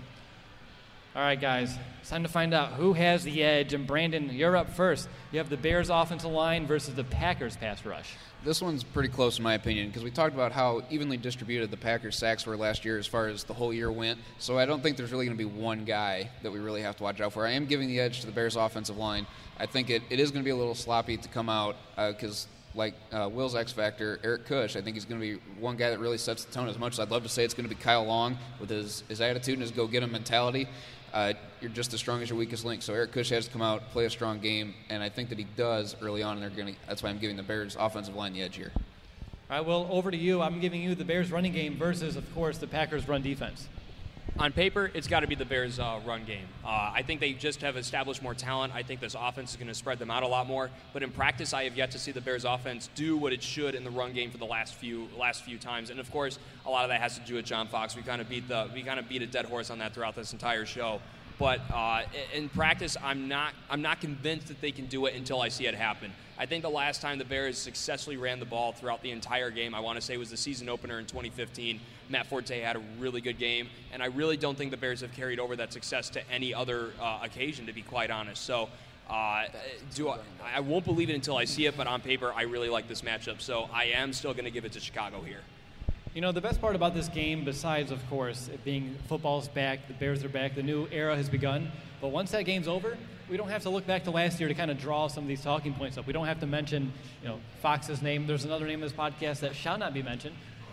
All right, guys, it's time to find out who has the edge. And Brandon, you're up first. You have the Bears offensive line versus the Packers pass rush. This one's pretty close in my opinion because we talked about how evenly distributed the Packers' sacks were last year as far as the whole year went. So I don't think there's really going to be one guy that we really have to watch out for. I am giving the edge to the Bears' offensive line. I think it is going to be a little sloppy to come out because like Will's X Factor, Eric Kush, I think he's going to be one guy that really sets the tone. As much as I'd love to say it's going to be Kyle Long with his attitude and his go-get-him mentality, you're just as strong as your weakest link. So Eric Kush has to come out, play a strong game, and I think that he does early on, and that's why I'm giving the Bears offensive line the edge here. All right, Will, over to you. I'm giving you the Bears running game versus, of course, the Packers run defense. On paper, it's got to be the Bears' run game. I think they just have established more talent. I think this offense is going to spread them out a lot more. But in practice, I have yet to see the Bears' offense do what it should in the run game for the last few times. And of course, a lot of that has to do with John Fox. We kind of beat a dead horse on that throughout this entire show. But in practice, I'm not convinced that they can do it until I see it happen. I think the last time the Bears successfully ran the ball throughout the entire game, I want to say was the season opener in 2015. Matt Forte had a really good game, and I really don't think the Bears have carried over that success to any other occasion, to be quite honest. So I won't believe it until I see it, but on paper, I really like this matchup. So I am still going to give it to Chicago here. The best part about this game, besides, of course, it being football's back, the Bears are back, the new era has begun. But once that game's over, we don't have to look back to last year to kind of draw some of these talking points up. We don't have to mention, Fox's name. There's another name of this podcast that shall not be mentioned.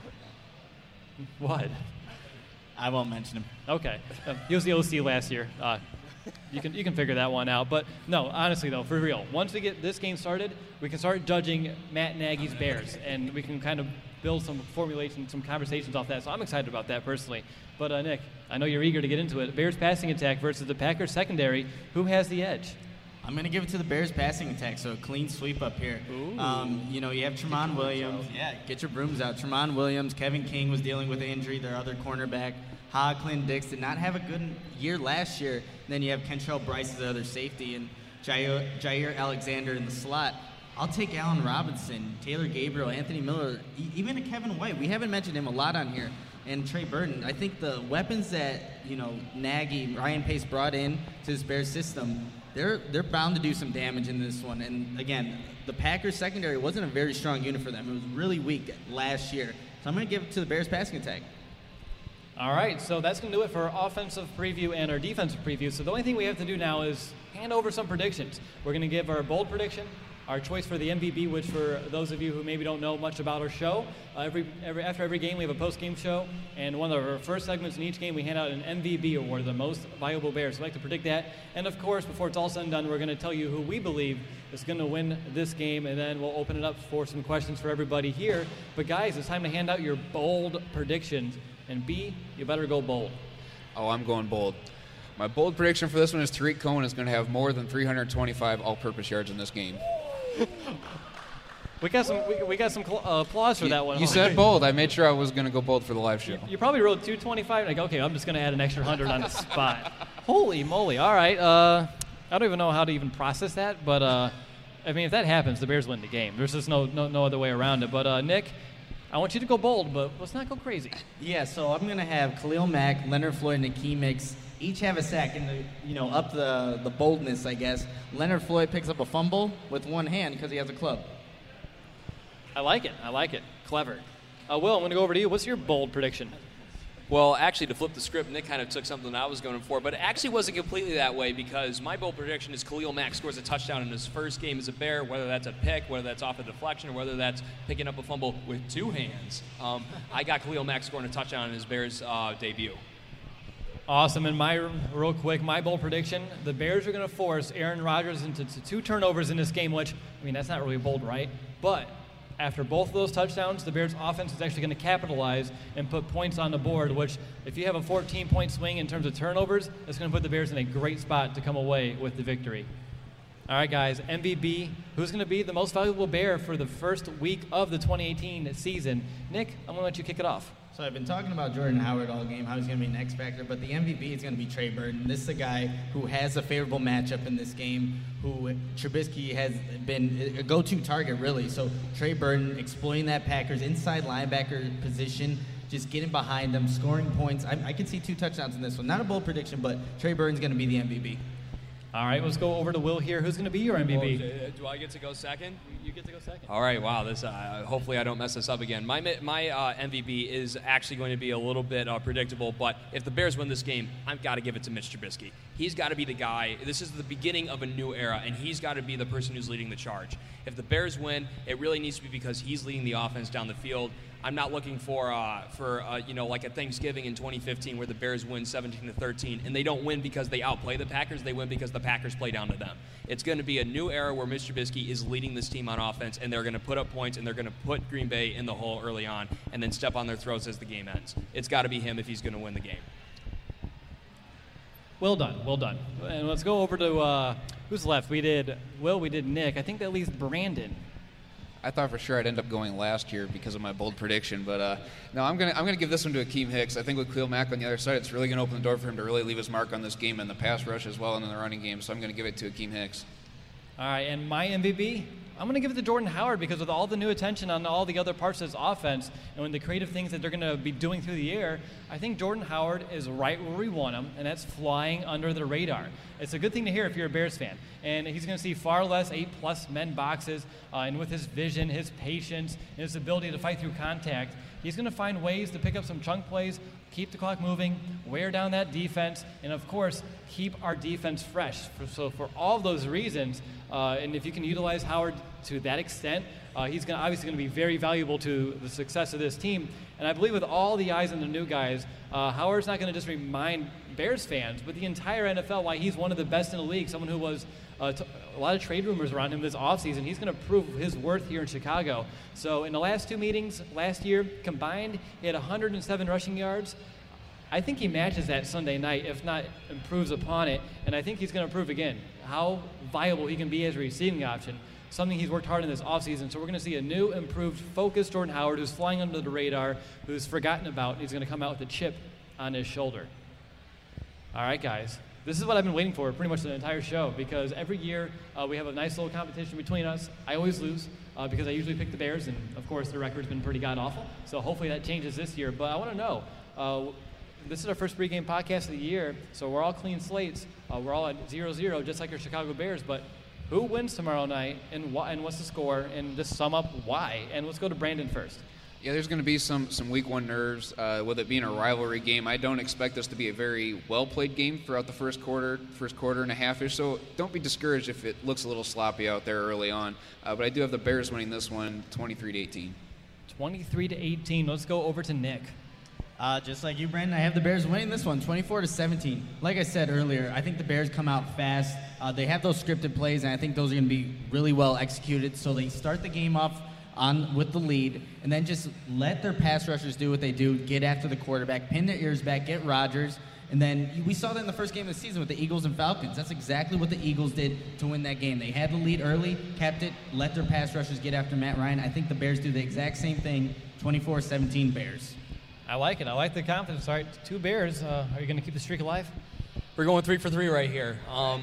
What? I won't mention him. Okay. He was the OC last year. You can figure that one out. But no, honestly though, for real, once we get this game started, we can start judging Matt Nagy's Bears, and we can kind of build some formulation, some conversations off that. So I'm excited about that personally. But Nick, I know you're eager to get into it. Bears passing attack versus the Packers secondary. Who has the edge? I'm going to give it to the Bears passing attack, so a clean sweep up here. You have Tramon Williams. Yeah, get your brooms out. Tramon Williams, Kevin King was dealing with an injury, their other cornerback. Clint Dix did not have a good year last year. And then you have Kentrell Bryce as the other safety and Jair Alexander in the slot. I'll take Allen Robinson, Taylor Gabriel, Anthony Miller, even a Kevin White. We haven't mentioned him a lot on here. And Trey Burton. I think the weapons that, Nagy, Ryan Pace brought in to this Bears system, they're bound to do some damage in this one. And again, the Packers secondary wasn't a very strong unit for them. It was really weak last year. So I'm going to give it to the Bears passing attack. All right, so that's going to do it for our offensive preview and our defensive preview. So the only thing we have to do now is hand over some predictions. We're going to give our bold prediction, our choice for the MVP, which for those of you who maybe don't know much about our show, after every game we have a post-game show, and one of our first segments in each game we hand out an MVP award, the most valuable Bears. So I'd like to predict that. And of course, before it's all said and done, we're going to tell you who we believe is going to win this game, and then we'll open it up for some questions for everybody here. But guys, it's time to hand out your bold predictions. And B, you better go bold. Oh, I'm going bold. My bold prediction for this one is Tariq Cohen is going to have more than 325 all-purpose yards in this game. We got some applause for that one. You said bold. I made sure I was going to go bold for the live show. You probably wrote 225. Like, okay, I'm just going to add an extra 100 on the spot. Holy moly! All right. I don't even know how to even process that, but if that happens, the Bears win the game. There's just no other way around it. But Nick, I want you to go bold, but let's not go crazy. Yeah, so I'm going to have Khalil Mack, Leonard Floyd, and Akeem Hicks each have a sack and up the boldness, I guess. Leonard Floyd picks up a fumble with one hand because he has a club. I like it. Clever. Will, I'm going to go over to you. What's your bold prediction? Well, actually, to flip the script, Nick kind of took something I was going for, but it actually wasn't completely that way because my bold prediction is Khalil Mack scores a touchdown in his first game as a Bear, whether that's a pick, whether that's off a deflection, or whether that's picking up a fumble with two hands. I got Khalil Mack scoring a touchdown in his Bears debut. Awesome. And real quick, my bold prediction, the Bears are going to force Aaron Rodgers into 2 turnovers in this game, which, that's not really bold, right? But after both of those touchdowns, the Bears' offense is actually going to capitalize and put points on the board, which if you have a 14-point swing in terms of turnovers, it's going to put the Bears in a great spot to come away with the victory. All right, guys, MVP, who's going to be the most valuable Bear for the first week of the 2018 season? Nick, I'm going to let you kick it off. So I've been talking about Jordan Howard all game, how he's going to be an X factor, but the MVP is going to be Trey Burton. This is a guy who has a favorable matchup in this game, who Trubisky has been a go-to target, really. So Trey Burton exploiting that Packers inside linebacker position, just getting behind them, scoring points. I can see 2 touchdowns in this one. Not a bold prediction, but Trey Burton's going to be the MVP. All right, let's go over to Will here. Who's going to be your MVP? Do I get to go second? You get to go second. All right, wow. This hopefully I don't mess this up again. My MVP is actually going to be a little bit predictable, but if the Bears win this game, I've got to give it to Mitch Trubisky. He's got to be the guy. This is the beginning of a new era, and he's got to be the person who's leading the charge. If the Bears win, it really needs to be because he's leading the offense down the field. I'm not looking for like a Thanksgiving in 2015 where the Bears win 17-13, and they don't win because they outplay the Packers. They win because the Packers play down to them. It's going to be a new era where Mr. Trubisky is leading this team on offense, and they're going to put up points, and they're going to put Green Bay in the hole early on, and then step on their throats as the game ends. It's got to be him if he's going to win the game. Well done. And let's go over to who's left. We did Will, we did Nick. I think that leaves Brandon. I thought for sure I'd end up going last year because of my bold prediction, but no, I'm gonna give this one to Akeem Hicks. I think with Khalil Mack on the other side, it's really gonna open the door for him to really leave his mark on this game in the pass rush as well and in the running game. So I'm gonna give it to Akeem Hicks. All right, and my MVP, I'm going to give it to Jordan Howard because with all the new attention on all the other parts of his offense and the creative things that they're going to be doing through the air, I think Jordan Howard is right where we want him, and that's flying under the radar. It's a good thing to hear if you're a Bears fan. And he's going to see far less 8+ men boxes, and with his vision, his patience, and his ability to fight through contact, he's going to find ways to pick up some chunk plays, keep the clock moving, wear down that defense, and of course, keep our defense fresh. So for all of those reasons, and if you can utilize Howard to that extent, he's obviously going to be very valuable to the success of this team. And I believe with all the eyes on the new guys, Howard's not going to just remind Bears fans, but the entire NFL why he's one of the best in the league, someone who was a lot of trade rumors around him this offseason. He's going to prove his worth here in Chicago. So in the last 2 meetings last year, combined, he had 107 rushing yards. I think he matches that Sunday night, if not improves upon it, and I think he's going to improve again. how viable he can be as a receiving option, something he's worked hard in this offseason. So we're going to see a new, improved, focused Jordan Howard who's flying under the radar, who's forgotten about, and he's going to come out with a chip on his shoulder. All right, guys. This is what I've been waiting for pretty much the entire show, because every year we have a nice little competition between us. I always lose because I usually pick the Bears, and, of course, the record's been pretty god-awful. So hopefully that changes this year. But I want to know, this is our first pregame podcast of the year, so we're all clean slates. We're all at 0-0, just like our Chicago Bears. But who wins tomorrow night, and what's the score, and just sum up why? And let's go to Brandon first. Yeah, there's going to be some week one nerves with it being a rivalry game. I don't expect this to be a very well-played game throughout the first quarter and a half-ish, so don't be discouraged if it looks a little sloppy out there early on. But I do have the Bears winning this one 23-18. 23-18. Let's go over to Nick. Just like you, Brandon, I have the Bears winning this one 24-17. Like I said earlier, I think the Bears come out fast. They have those scripted plays, and I think those are going to be really well executed. So they start the game off with the lead, and then just let their pass rushers do what they do, get after the quarterback, pin their ears back, get Rodgers, and then we saw that in the first game of the season with the Eagles and Falcons. That's exactly what the Eagles did to win that game. They had the lead early, kept it, let their pass rushers get after Matt Ryan. I think the Bears do the exact same thing, 24-17 Bears. I like it. I like the confidence. All right, 2 Bears. Are you going to keep the streak alive? We're going 3 for 3 right here.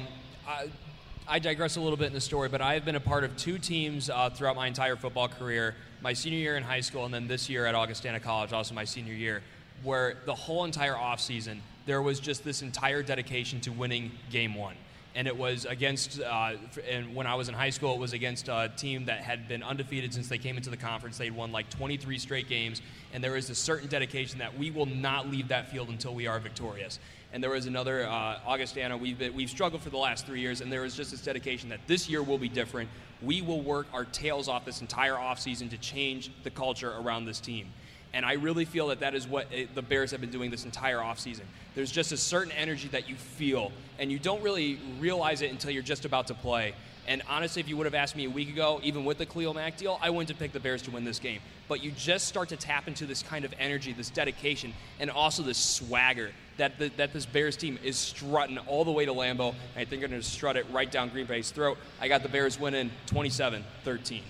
I digress a little bit in the story, but I have been a part of 2 teams throughout my entire football career, my senior year in high school and then this year at Augustana College, also my senior year, where the whole entire offseason, there was just this entire dedication to winning game 1. And it was against, and when I was in high school, it was against a team that had been undefeated since they came into the conference. They'd won like 23 straight games, and there was a certain dedication that we will not leave that field until we are victorious. And there was another Augustana. We've struggled for the last 3 years, and there was just this dedication that this year will be different. We will work our tails off this entire offseason to change the culture around this team. And I really feel that is what the Bears have been doing this entire offseason. There's just a certain energy that you feel, and you don't really realize it until you're just about to play. And honestly, if you would have asked me a week ago, even with the Khalil Mack deal, I wouldn't have picked the Bears to win this game. But you just start to tap into this kind of energy, this dedication, and also this swagger that this Bears team is strutting all the way to Lambeau. And I think they're going to strut it right down Green Bay's throat. I got the Bears winning 27-13.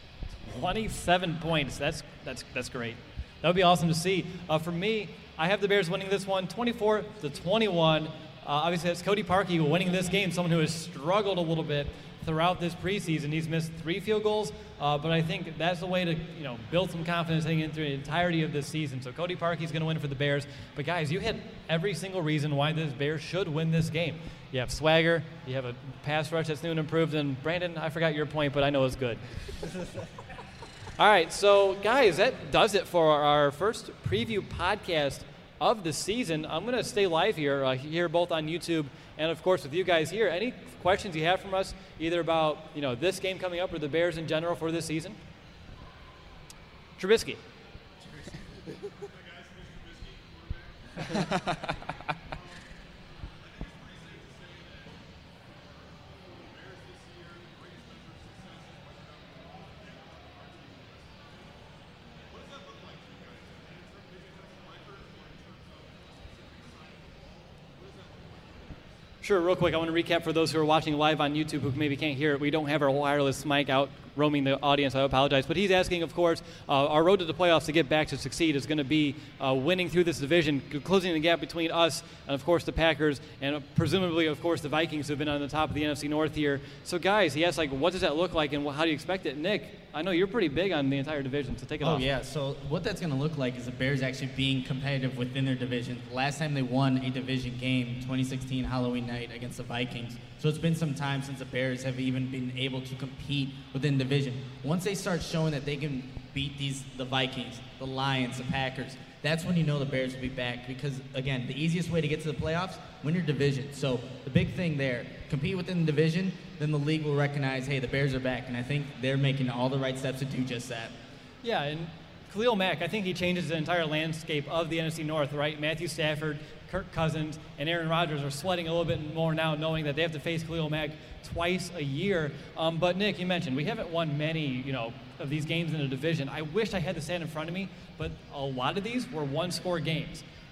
27 points. That's great. That would be awesome to see. For me, I have the Bears winning this one 24-21. Obviously, that's Cody Parkey winning this game, someone who has struggled a little bit throughout this preseason. He's missed 3 field goals, but I think that's the way to build some confidence heading into the entirety of this season. So Cody Parkey's going to win for the Bears. But, guys, you hit every single reason why this Bears should win this game. You have swagger. You have a pass rush that's new and improved. And, Brandon, I forgot your point, but I know it's good. All right, so, guys, that does it for our first preview podcast of the season. I'm going to stay live here both on YouTube and, of course, with you guys here. Any questions you have from us, either about this game coming up or the Bears in general for this season? Trubisky. Sure, real quick, I want to recap for those who are watching live on YouTube who maybe can't hear it. We don't have our wireless mic out roaming the audience. I apologize. But he's asking, of course, our road to the playoffs to get back to succeed is going to be winning through this division, closing the gap between us and, of course, the Packers and presumably, of course, the Vikings who have been on the top of the NFC North here. So, guys, he asked, what does that look like and how do you expect it? Nick, I know you're pretty big on the entire division, so take it off. Oh, yeah. So what that's going to look like is the Bears actually being competitive within their division. Last time they won a division game, 2016 Halloween night against the Vikings. So it's been some time since the Bears have even been able to compete within division. Once they start showing that they can beat the Vikings, the Lions, the Packers, that's when you know the Bears will be back because, again, the easiest way to get to the playoffs, win your division. So the big thing there, compete within the division, then the league will recognize, hey, the Bears are back, and I think they're making all the right steps to do just that. Yeah, and Khalil Mack, I think he changes the entire landscape of the NFC North, right? Matthew Stafford, Kirk Cousins, and Aaron Rodgers are sweating a little bit more now knowing that they have to face Khalil Mack twice a year. But, Nick, you mentioned we haven't won many, of these games in the division. I wish I had the stat in front of me, but a lot of these were one-score games.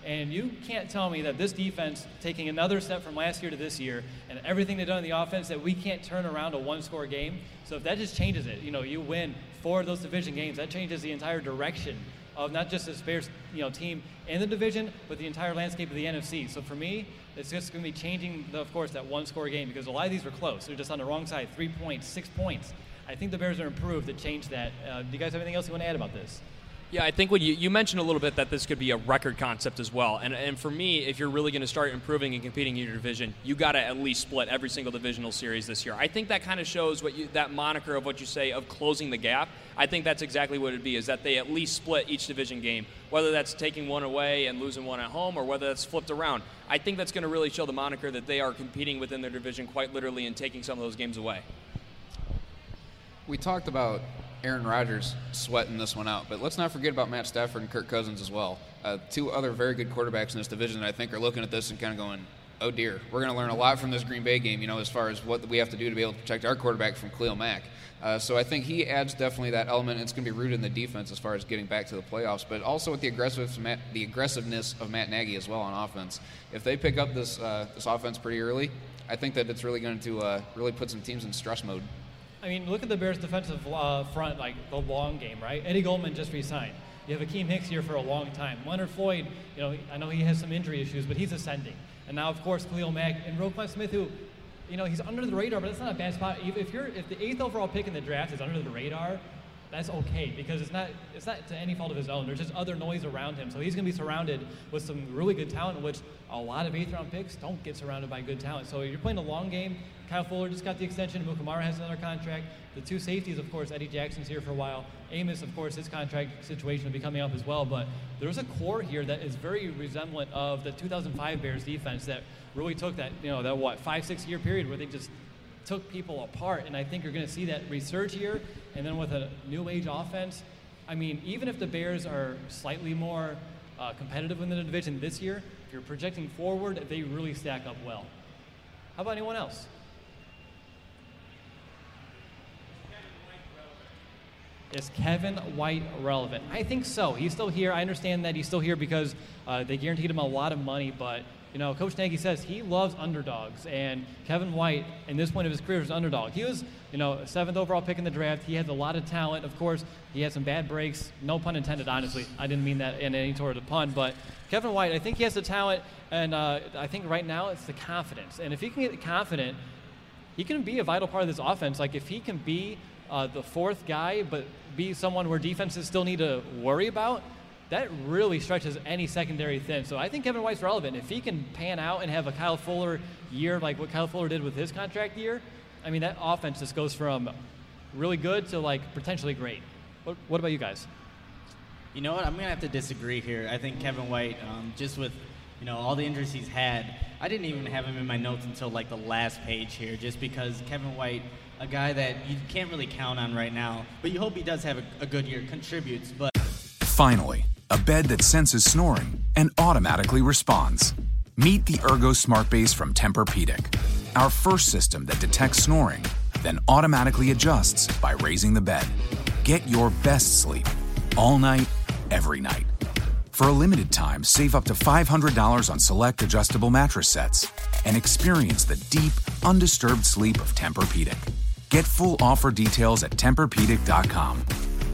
And you can't tell me that this defense, taking another step from last year to this year, and everything they've done in the offense, that we can't turn around a one-score game. So if that just changes it, you win 4 of those division games, that changes the entire direction of not just this Bears team in the division, but the entire landscape of the NFC. So for me, it's just going to be changing, of course, that one-score game, because a lot of these were close. They're just on the wrong side, 3 points, 6 points. I think the Bears are improved to change that. Do you guys have anything else you want to add about this? Yeah, I think when you mentioned a little bit that this could be a record concept as well. And for me, if you're really going to start improving and competing in your division, you got to at least split every single divisional series this year. I think that kind of shows that moniker of what you say of closing the gap. I think that's exactly what it would be, is that they at least split each division game, whether that's taking one away and losing one at home or whether that's flipped around. I think that's going to really show the moniker that they are competing within their division quite literally and taking some of those games away. We talked about Aaron Rodgers sweating this one out, but let's not forget about Matt Stafford and Kirk Cousins as well. 2 other very good quarterbacks in this division that I think are looking at this and kind of going, oh dear, we're going to learn a lot from this Green Bay game, as far as what we have to do to be able to protect our quarterback from Khalil Mack. So I think he adds definitely that element. It's going to be rooted in the defense as far as getting back to the playoffs, but also with the aggressiveness of Matt Nagy as well on offense. If they pick up this offense pretty early, I think that it's really going to really put some teams in stress mode. I mean, look at the Bears' defensive front, like the long game, right? Eddie Goldman just re-signed. You have Akeem Hicks here for a long time. Leonard Floyd, I know he has some injury issues, but he's ascending. And now, of course, Khalil Mack and Roquan Smith, who, he's under the radar, but that's not a bad spot. If the 8th overall pick in the draft is under the radar, that's okay, because it's not to any fault of his own. There's just other noise around him. So he's going to be surrounded with some really good talent, which a lot of 8th-round picks don't get surrounded by good talent. So you're playing a long game. Kyle Fuller just got the extension. Mukamara has another contract. The 2 safeties, of course, Eddie Jackson's here for a while. Amos, of course, his contract situation will be coming up as well. But there's a core here that is very resemblant of the 2005 Bears defense that really took that, that 5-6 year period where they just took people apart. And I think you're going to see that resurge here. And then with a new age offense, I mean, even if the Bears are slightly more competitive in the division this year, if you're projecting forward, they really stack up well. How about anyone else? Is Kevin White relevant? I think so. He's still here. I understand that he's still here because they guaranteed him a lot of money, but Coach Nagy says he loves underdogs, and Kevin White, in this point of his career, is an underdog. He was, a 7th overall pick in the draft. He has a lot of talent. Of course, he had some bad breaks. No pun intended, honestly. I didn't mean that in any sort of pun, but Kevin White, I think he has the talent, and I think right now it's the confidence. And if he can get confident, he can be a vital part of this offense. Like, if he can be the 4th guy, but be someone where defenses still need to worry about, that really stretches any secondary thin. So I think Kevin White's relevant. If he can pan out and have a Kyle Fuller year like what Kyle Fuller did with his contract year, I mean, that offense just goes from really good to, potentially great. What about you guys? You know what? I'm going to have to disagree here. I think Kevin White, just with, all the injuries he's had, I didn't even have him in my notes until, the last page here, just because Kevin White, a guy that you can't really count on right now, but you hope he does have a good year, contributes. But Finally, a bed that senses snoring and automatically responds. Meet the Ergo Smart Base from Tempur-Pedic, our first system that detects snoring, then automatically adjusts by raising the bed. Get your best sleep all night, every night. For a limited time, save up to $500 on select adjustable mattress sets and experience the deep, undisturbed sleep of Tempur-Pedic. Get full offer details at TempurPedic.com.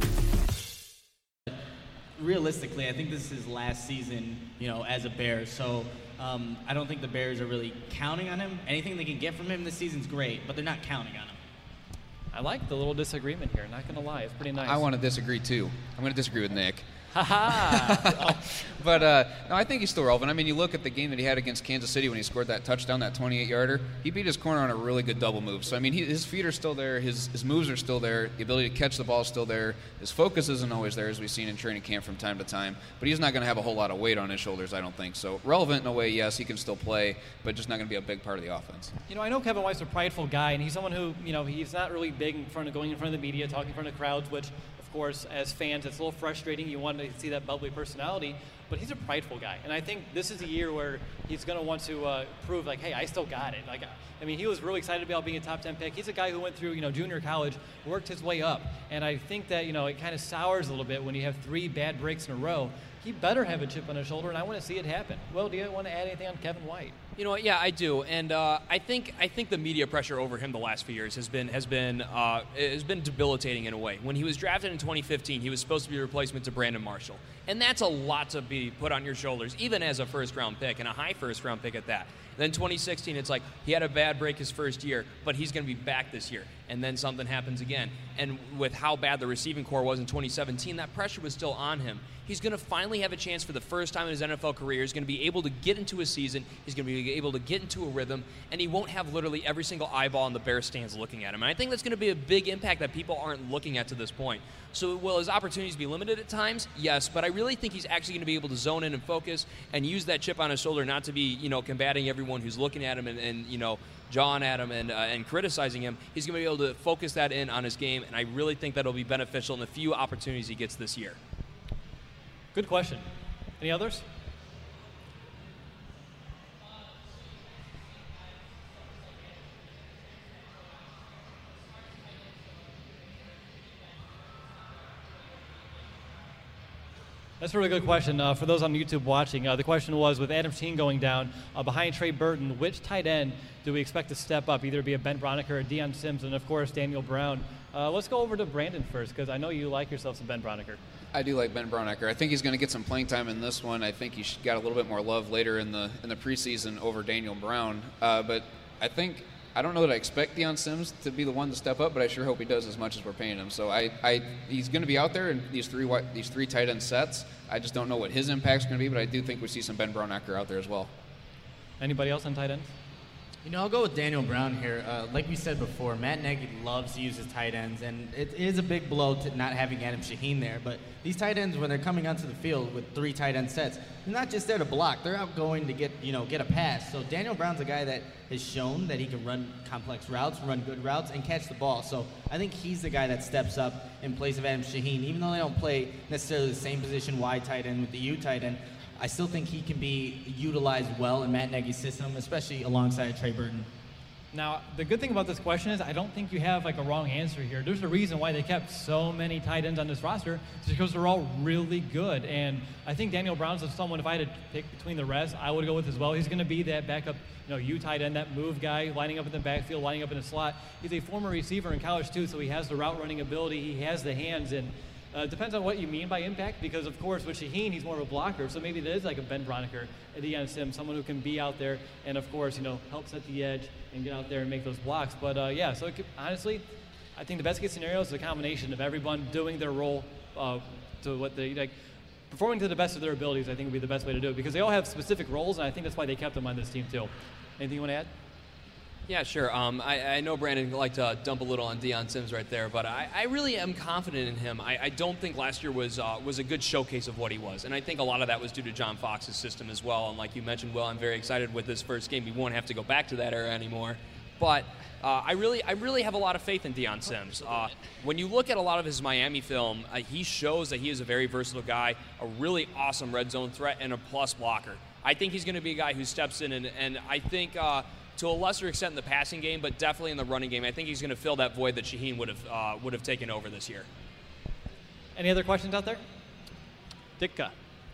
Realistically, I think this is his last season, as a Bear. So I don't think the Bears are really counting on him. Anything they can get from him this season's great, but they're not counting on him. I like the little disagreement here. Not going to lie. It's pretty nice. I want to disagree, too. I'm going to disagree with Nick. Ha-ha! But, no, I think he's still relevant. I mean, you look at the game that he had against Kansas City when he scored that touchdown, that 28-yarder. He beat his corner on a really good double move. So, I mean, his feet are still there. His moves are still there. The ability to catch the ball is still there. His focus isn't always there, as we've seen in training camp from time to time. But he's not going to have a whole lot of weight on his shoulders, I don't think. So, relevant in a way, yes, he can still play, but just not going to be a big part of the offense. I know Kevin White's a prideful guy, and he's someone who, he's not really big going in front of the media, talking in front of crowds, which, of course, as fans, it's a little frustrating. You want to see that bubbly personality, but he's a prideful guy. And I think this is a year where he's going to want to prove, hey, I still got it. He was really excited about being a top 10 pick. He's a guy who went through, junior college, worked his way up. And I think that, it kind of sours a little bit when you have 3 bad breaks in a row. he better have a chip on his shoulder, and I want to see it happen. Will, do you want to add anything on Kevin White? You know what? Yeah, I do, and I think the media pressure over him the last few years has been debilitating in a way. When he was drafted in 2015, he was supposed to be a replacement to Brandon Marshall, and that's a lot to be put on your shoulders, even as a first-round pick and a high first-round pick at that. Then 2016, it's like he had a bad break his first year, but he's going to be back this year. And then something happens again. And with how bad the receiving core was in 2017, that pressure was still on him. He's going to finally have a chance for the first time in his NFL career. He's going to be able to get into a season. He's going to be able to get into a rhythm. And he won't have literally every single eyeball in the Bears stands looking at him. And I think that's going to be a big impact that people aren't looking at to this point. So will his opportunities be limited at times? Yes, but I really think he's actually going to be able to zone in and focus and use that chip on his shoulder, not to be, combating everyone who's looking at him and jawing at him and criticizing him. He's going to be able to focus that in on his game, and I really think that'll be beneficial in the few opportunities he gets this year. Good question. Any others? That's a really good question. For those on YouTube watching, the question was, with Adam Shaheen going down, behind Trey Burton, which tight end do we expect to step up, either be a Ben Braunecker or Deion Sims, and of course Daniel Brown? Let's go over to Brandon first, because I know you like yourself some Ben Braunecker. I do like Ben Braunecker. I think he's going to get some playing time in this one. I think he got a little bit more love later in the preseason over Daniel Brown. But I don't know that I expect Deion Sims to be the one to step up, but I sure hope he does as much as we're paying him. So he's going to be out there in these three tight end sets. I just don't know what his impact's going to be, but I do think we see some Ben Braunecker out there as well. Anybody else on tight ends? I'll go with Daniel Brown here. Like we said before, Matt Nagy loves to use his tight ends, and it is a big blow to not having Adam Shaheen there. But these tight ends, when they're coming onto the field with three tight end sets, they're not just there to block. They're out going to get a pass. So Daniel Brown's a guy that has shown that he can run complex routes, run good routes, and catch the ball. So I think he's the guy that steps up in place of Adam Shaheen. Even though they don't play necessarily the same position, wide tight end with the U tight end, I still think he can be utilized well in Matt Nagy's system, especially alongside Trey Burton. Now, the good thing about this question is I don't think you have a wrong answer here. There's a reason why they kept so many tight ends on this roster. It's because they're all really good. And I think Daniel Brown's someone, if I had to pick between the rest, I would go with as well. He's going to be that backup, U tight end, that move guy, lining up in the backfield, lining up in the slot. He's a former receiver in college too, so he has the route running ability. He has the hands, and it depends on what you mean by impact, because of course with Shaheen, he's more of a blocker, so maybe it is like a Ben Braunecker, a Deion Sims, someone who can be out there and of course, help set the edge and get out there and make those blocks. But so it could, honestly, I think the best case scenario is a combination of everyone doing their role to what they performing to the best of their abilities. I think would be the best way to do it, because they all have specific roles, and I think that's why they kept them on this team too. Anything you want to add? Yeah, sure. I know Brandon liked to dump a little on Deion Sims right there, but I really am confident in him. I don't think last year was a good showcase of what he was, and I think a lot of that was due to John Fox's system as well. And like you mentioned, Will, I'm very excited with this first game. We won't have to go back to that era anymore. But I really have a lot of faith in Deion Sims. When you look at a lot of his Miami film, he shows that he is a very versatile guy, a really awesome red zone threat, and a plus blocker. I think he's going to be a guy who steps in, and I think to a lesser extent in the passing game, but definitely in the running game, I think he's going to fill that void that Shaheen would have taken over this year. Any other questions out there? Ditka.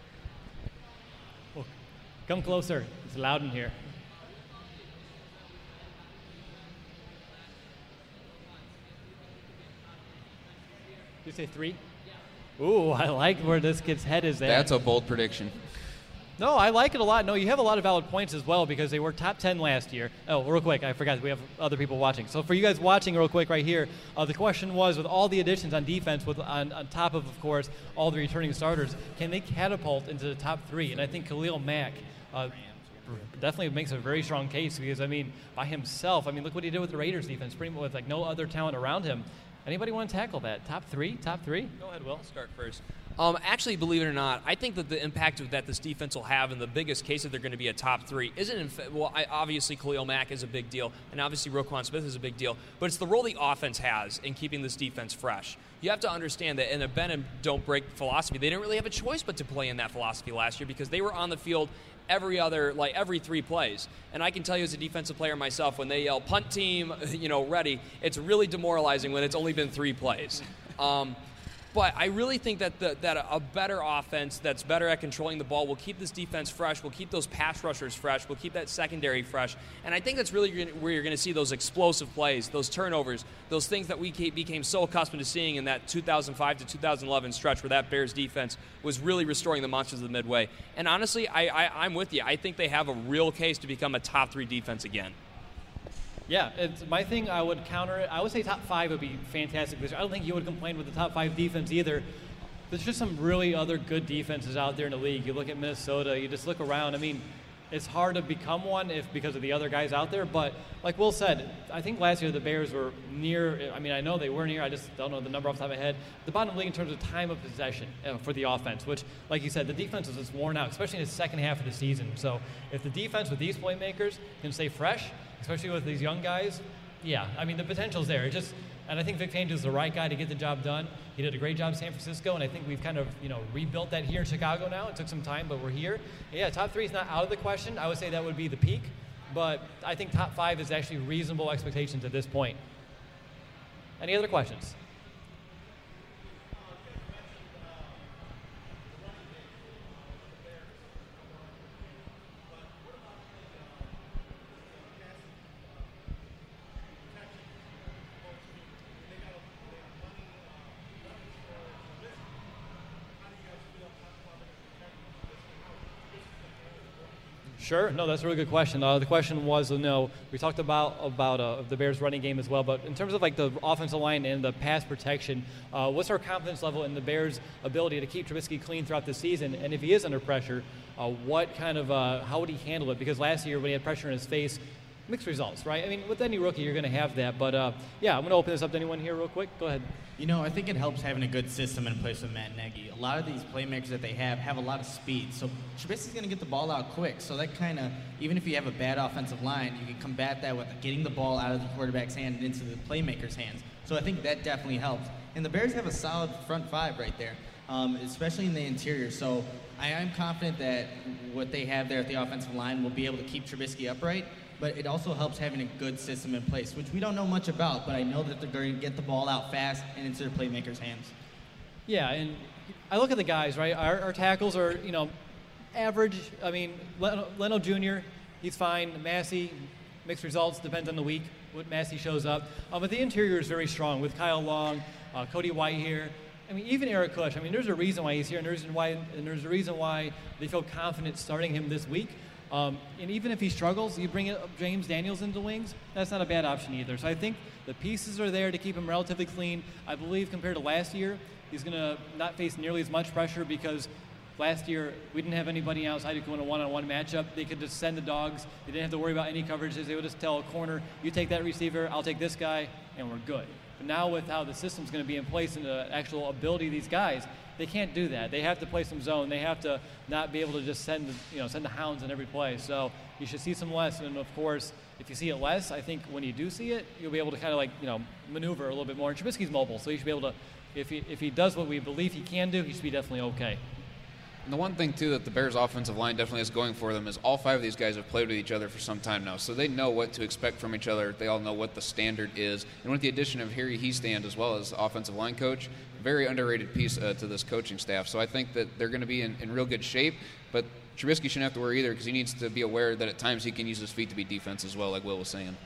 Oh, come closer. It's loud in here. Did you say 3? Ooh, I like where this kid's head is at. That's a bold prediction. No, I like it a lot. No, you have a lot of valid points as well, because they were top 10 last year. Oh, real quick, I forgot we have other people watching. So for you guys watching real quick right here, the question was, with all the additions on defense, on top of course, all the returning starters, can they catapult into the top 3? And I think Khalil Mack definitely makes a very strong case, because, by himself, look what he did with the Raiders defense, pretty much with no other talent around him. Anybody want to tackle that? Top 3? Top 3? Go ahead, Will. I'll start first. Actually, believe it or not, I think that the impact that this defense will have, and the biggest case that they're going to be a top 3, obviously Khalil Mack is a big deal, and obviously Roquan Smith is a big deal, but it's the role the offense has in keeping this defense fresh. You have to understand that in a bend and don't break philosophy, they didn't really have a choice but to play in that philosophy last year, because they were on the field every 3 plays. And I can tell you as a defensive player myself, when they yell punt team, ready, it's really demoralizing when it's only been 3 plays. But I really think that that a better offense that's better at controlling the ball will keep this defense fresh, will keep those pass rushers fresh, will keep that secondary fresh. And I think that's really where you're going to see those explosive plays, those turnovers, those things that we became so accustomed to seeing in that 2005 to 2011 stretch where that Bears defense was really restoring the monsters of the Midway. And honestly, I'm with you. I think they have a real case to become a top 3 defense again. Yeah, it's my thing. I would counter it. I would say top 5 would be fantastic. I don't think you would complain with the top 5 defense either. There's just some really other good defenses out there in the league. You look at Minnesota, you just look around. I mean, it's hard to become one because of the other guys out there. But like Will said, I think last year the Bears were near. I mean, I know they were near. I just don't know the number off the top of my head. The bottom of the league in terms of time of possession for the offense, which, like you said, the defense was just worn out, especially in the second half of the season. So if the defense with these playmakers can stay fresh, especially with these young guys, yeah, I mean, the potential's there. And I think Vic Fangio is the right guy to get the job done. He did a great job in San Francisco, and I think we've kind of, rebuilt that here in Chicago now. It took some time, but we're here. Yeah, top 3 is not out of the question. I would say that would be the peak, but I think top 5 is actually reasonable expectations at this point. Any other questions? Sure. No, that's a really good question. The question was, we talked about the Bears' running game as well, but in terms of like the offensive line and the pass protection, what's our confidence level in the Bears' ability to keep Trubisky clean throughout the season? And if he is under pressure, what kind of how would he handle it? Because last year when he had pressure in his face, mixed results, right? I mean, with any rookie, you're going to have that. But yeah, I'm going to open this up to anyone here real quick. Go ahead. I think it helps having a good system in place with Matt Nagy. A lot of these playmakers that they have a lot of speed. So Trubisky's going to get the ball out quick. So that kind of, even if you have a bad offensive line, you can combat that with getting the ball out of the quarterback's hand and into the playmaker's hands. So I think that definitely helps. And the Bears have a solid front 5 right there, especially in the interior. So I am confident that what they have there at the offensive line will be able to keep Trubisky upright. But it also helps having a good system in place, which we don't know much about, but I know that they're going to get the ball out fast and into their playmakers' hands. Yeah, and I look at the guys, right? Our tackles are, average. I mean, Leno Jr., he's fine. Massey, mixed results, depends on the week, what Massey shows up. But the interior is very strong with Kyle Long, Cody White here. I mean, even Eric Kush. I mean, there's a reason why he's here, and there's a reason why they feel confident starting him this week. And even if he struggles, you bring up James Daniels into wings, that's not a bad option either. So I think the pieces are there to keep him relatively clean. I believe compared to last year, he's going to not face nearly as much pressure because last year we didn't have anybody outside who could win a one-on-one matchup. They could just send the dogs. They didn't have to worry about any coverages. They would just tell a corner, you take that receiver, I'll take this guy, and we're good. But now with how the system's going to be in place and the actual ability of these guys, they can't do that. They have to play some zone. They have to not be able to just send the hounds in every play. So you should see some less. And of course, if you see it less, I think when you do see it, you'll be able to kind of maneuver a little bit more. And Trubisky's mobile, so he should be able to, if he does what we believe he can do, he should be definitely okay. And the one thing, too, that the Bears' offensive line definitely has going for them is all 5 of these guys have played with each other for some time now, so they know what to expect from each other. They all know what the standard is. And with the addition of Harry Hiestand as well as offensive line coach, very underrated piece to this coaching staff. So I think that they're going to be in real good shape, but Trubisky shouldn't have to worry either because he needs to be aware that at times he can use his feet to be defense as well, like Will was saying.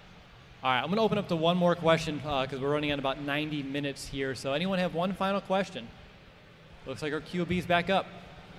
All right, I'm going to open up to one more question because we're running on about 90 minutes here. So anyone have one final question? Looks like our QB's back up.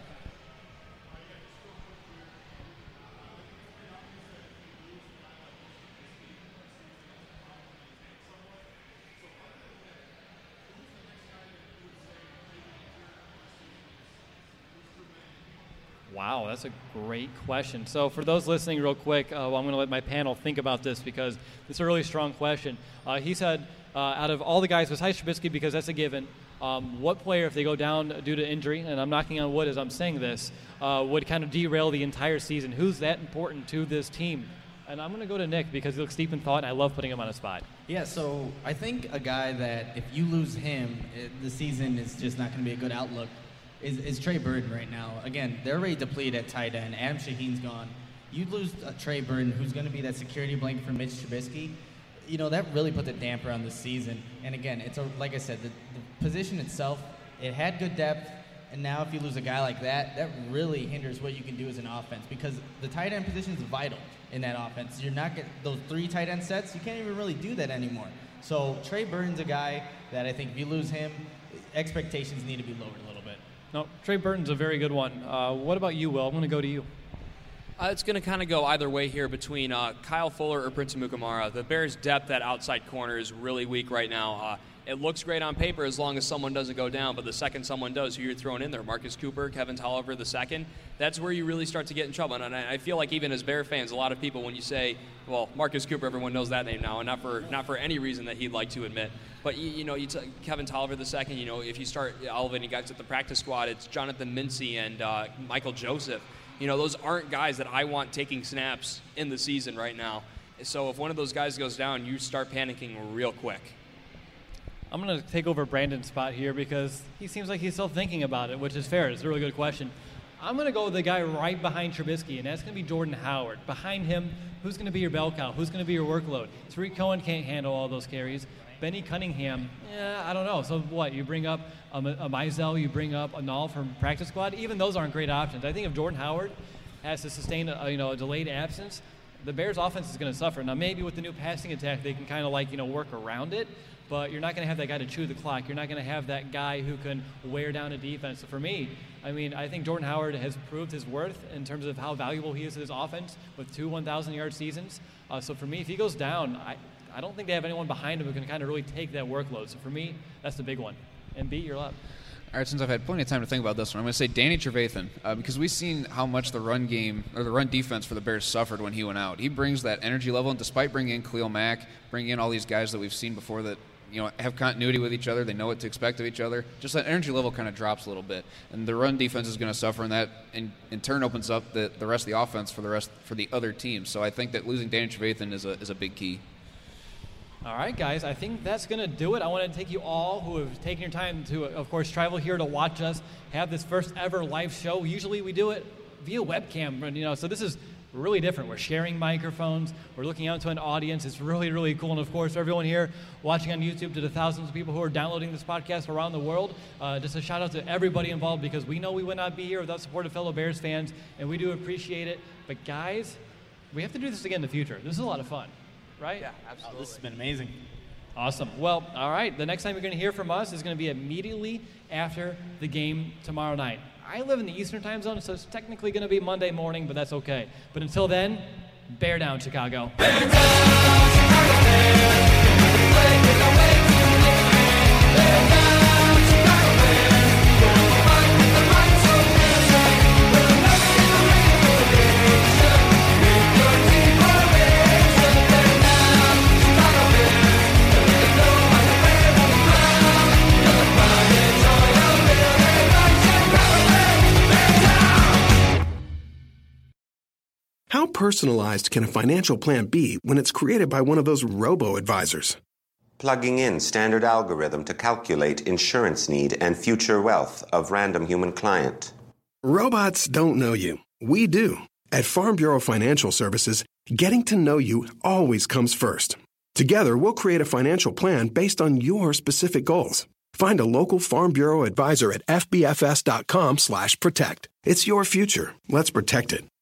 Wow, that's a great question. So for those listening real quick, I'm going to let my panel think about this because it's a really strong question. He said, out of all the guys besides Trubisky, because that's a given, what player, if they go down due to injury, and I'm knocking on wood as I'm saying this, would kind of derail the entire season? Who's that important to this team? And I'm going to go to Nick because he looks deep in thought, and I love putting him on a spot. Yeah, so I think a guy that if you lose him, the season is just not going to be a good outlook. Is Trey Burton right now. Again, they're already depleted at tight end. Adam Shaheen's gone. You lose Trey Burton, who's going to be that security blanket for Mitch Trubisky. that really puts a damper on the season. And again, like I said, the position itself, it had good depth, and now if you lose a guy like that, that really hinders what you can do as an offense, because the tight end position is vital in that offense. You're not getting those 3 tight end sets. You can't even really do that anymore. So Trey Burton's a guy that I think if you lose him, expectations need to be lowered a little bit. No, Trey Burton's a very good one. What about you, Will? I'm going to go to you. It's going to kind of go either way here between Kyle Fuller or Prince Amukamara. The Bears' depth at outside corner is really weak right now. It looks great on paper as long as someone doesn't go down, but the second someone does, who you're throwing in there, Marcus Cooper, Kevin Tolliver the second, that's where you really start to get in trouble. And I feel like even as Bear fans, a lot of people, when you say, well, Marcus Cooper, everyone knows that name now, and not for any reason that he'd like to admit. But, Kevin Tolliver the second, if you start elevating guys at the practice squad, it's Jonathan Mincy and Michael Joseph. Those aren't guys that I want taking snaps in the season right now. So if one of those guys goes down, you start panicking real quick. I'm going to take over Brandon's spot here because he seems like he's still thinking about it, which is fair. It's a really good question. I'm going to go with the guy right behind Trubisky, and that's going to be Jordan Howard. Behind him, who's going to be your bell cow? Who's going to be your workload? Tariq Cohen can't handle all those carries. Benny Cunningham, I don't know. So what? You bring up a Mizell, you bring up a Null from practice squad. Even those aren't great options. I think if Jordan Howard has to sustain a delayed absence, the Bears' offense is going to suffer. Now, maybe with the new passing attack, they can kind of work around it, but you're not going to have that guy to chew the clock. You're not going to have that guy who can wear down a defense. So for me, I think Jordan Howard has proved his worth in terms of how valuable he is to this offense with 2 1,000-yard seasons. So for me, if he goes down, I don't think they have anyone behind him who can kind of really take that workload. So for me, that's the big one. And beat your luck. All right, since I've had plenty of time to think about this one, I'm going to say Danny Trevathan, because we've seen how much the run game or the run defense for the Bears suffered when he went out. He brings that energy level, and despite bringing in Khalil Mack, bringing in all these guys that we've seen before that have continuity with each other, they know what to expect of each other, just that energy level kind of drops a little bit. And the run defense is going to suffer, and that in turn opens up the rest of the offense for the other teams. So I think that losing Danny Trevathan is a big key. All right, guys, I think that's going to do it. I want to thank you all who have taken your time to, of course, travel here to watch us have this first ever live show. Usually we do it via webcam, so this is really different. We're sharing microphones. We're looking out to an audience. It's really, really cool. And, of course, for everyone here watching on YouTube, to the thousands of people who are downloading this podcast around the world, just a shout-out to everybody involved, because we know we would not be here without support of fellow Bears fans, and we do appreciate it. But, guys, we have to do this again in the future. This is a lot of fun. Right? Yeah, absolutely. This has been amazing. Awesome. Well, all right. The next time you're going to hear from us is going to be immediately after the game tomorrow night. I live in the Eastern time zone, so it's technically going to be Monday morning, but that's okay. But until then, bear down, Chicago. Bear down, Chicago Bears. Play with our way to win. Bear down, Chicago Bears. We'll fight with the right so fierce. We'll never get away from the nation. With your team formation. Bear down, Chicago Bears. Let it go on the way on the ground. You're the pride and joy of building right, Chicago Bears. Bear down. How personalized can a financial plan be when it's created by one of those robo-advisors? Plugging in standard algorithm to calculate insurance need and future wealth of random human client. Robots don't know you. We do. At Farm Bureau Financial Services, getting to know you always comes first. Together, we'll create a financial plan based on your specific goals. Find a local Farm Bureau advisor at fbfs.com/protect. It's your future. Let's protect it.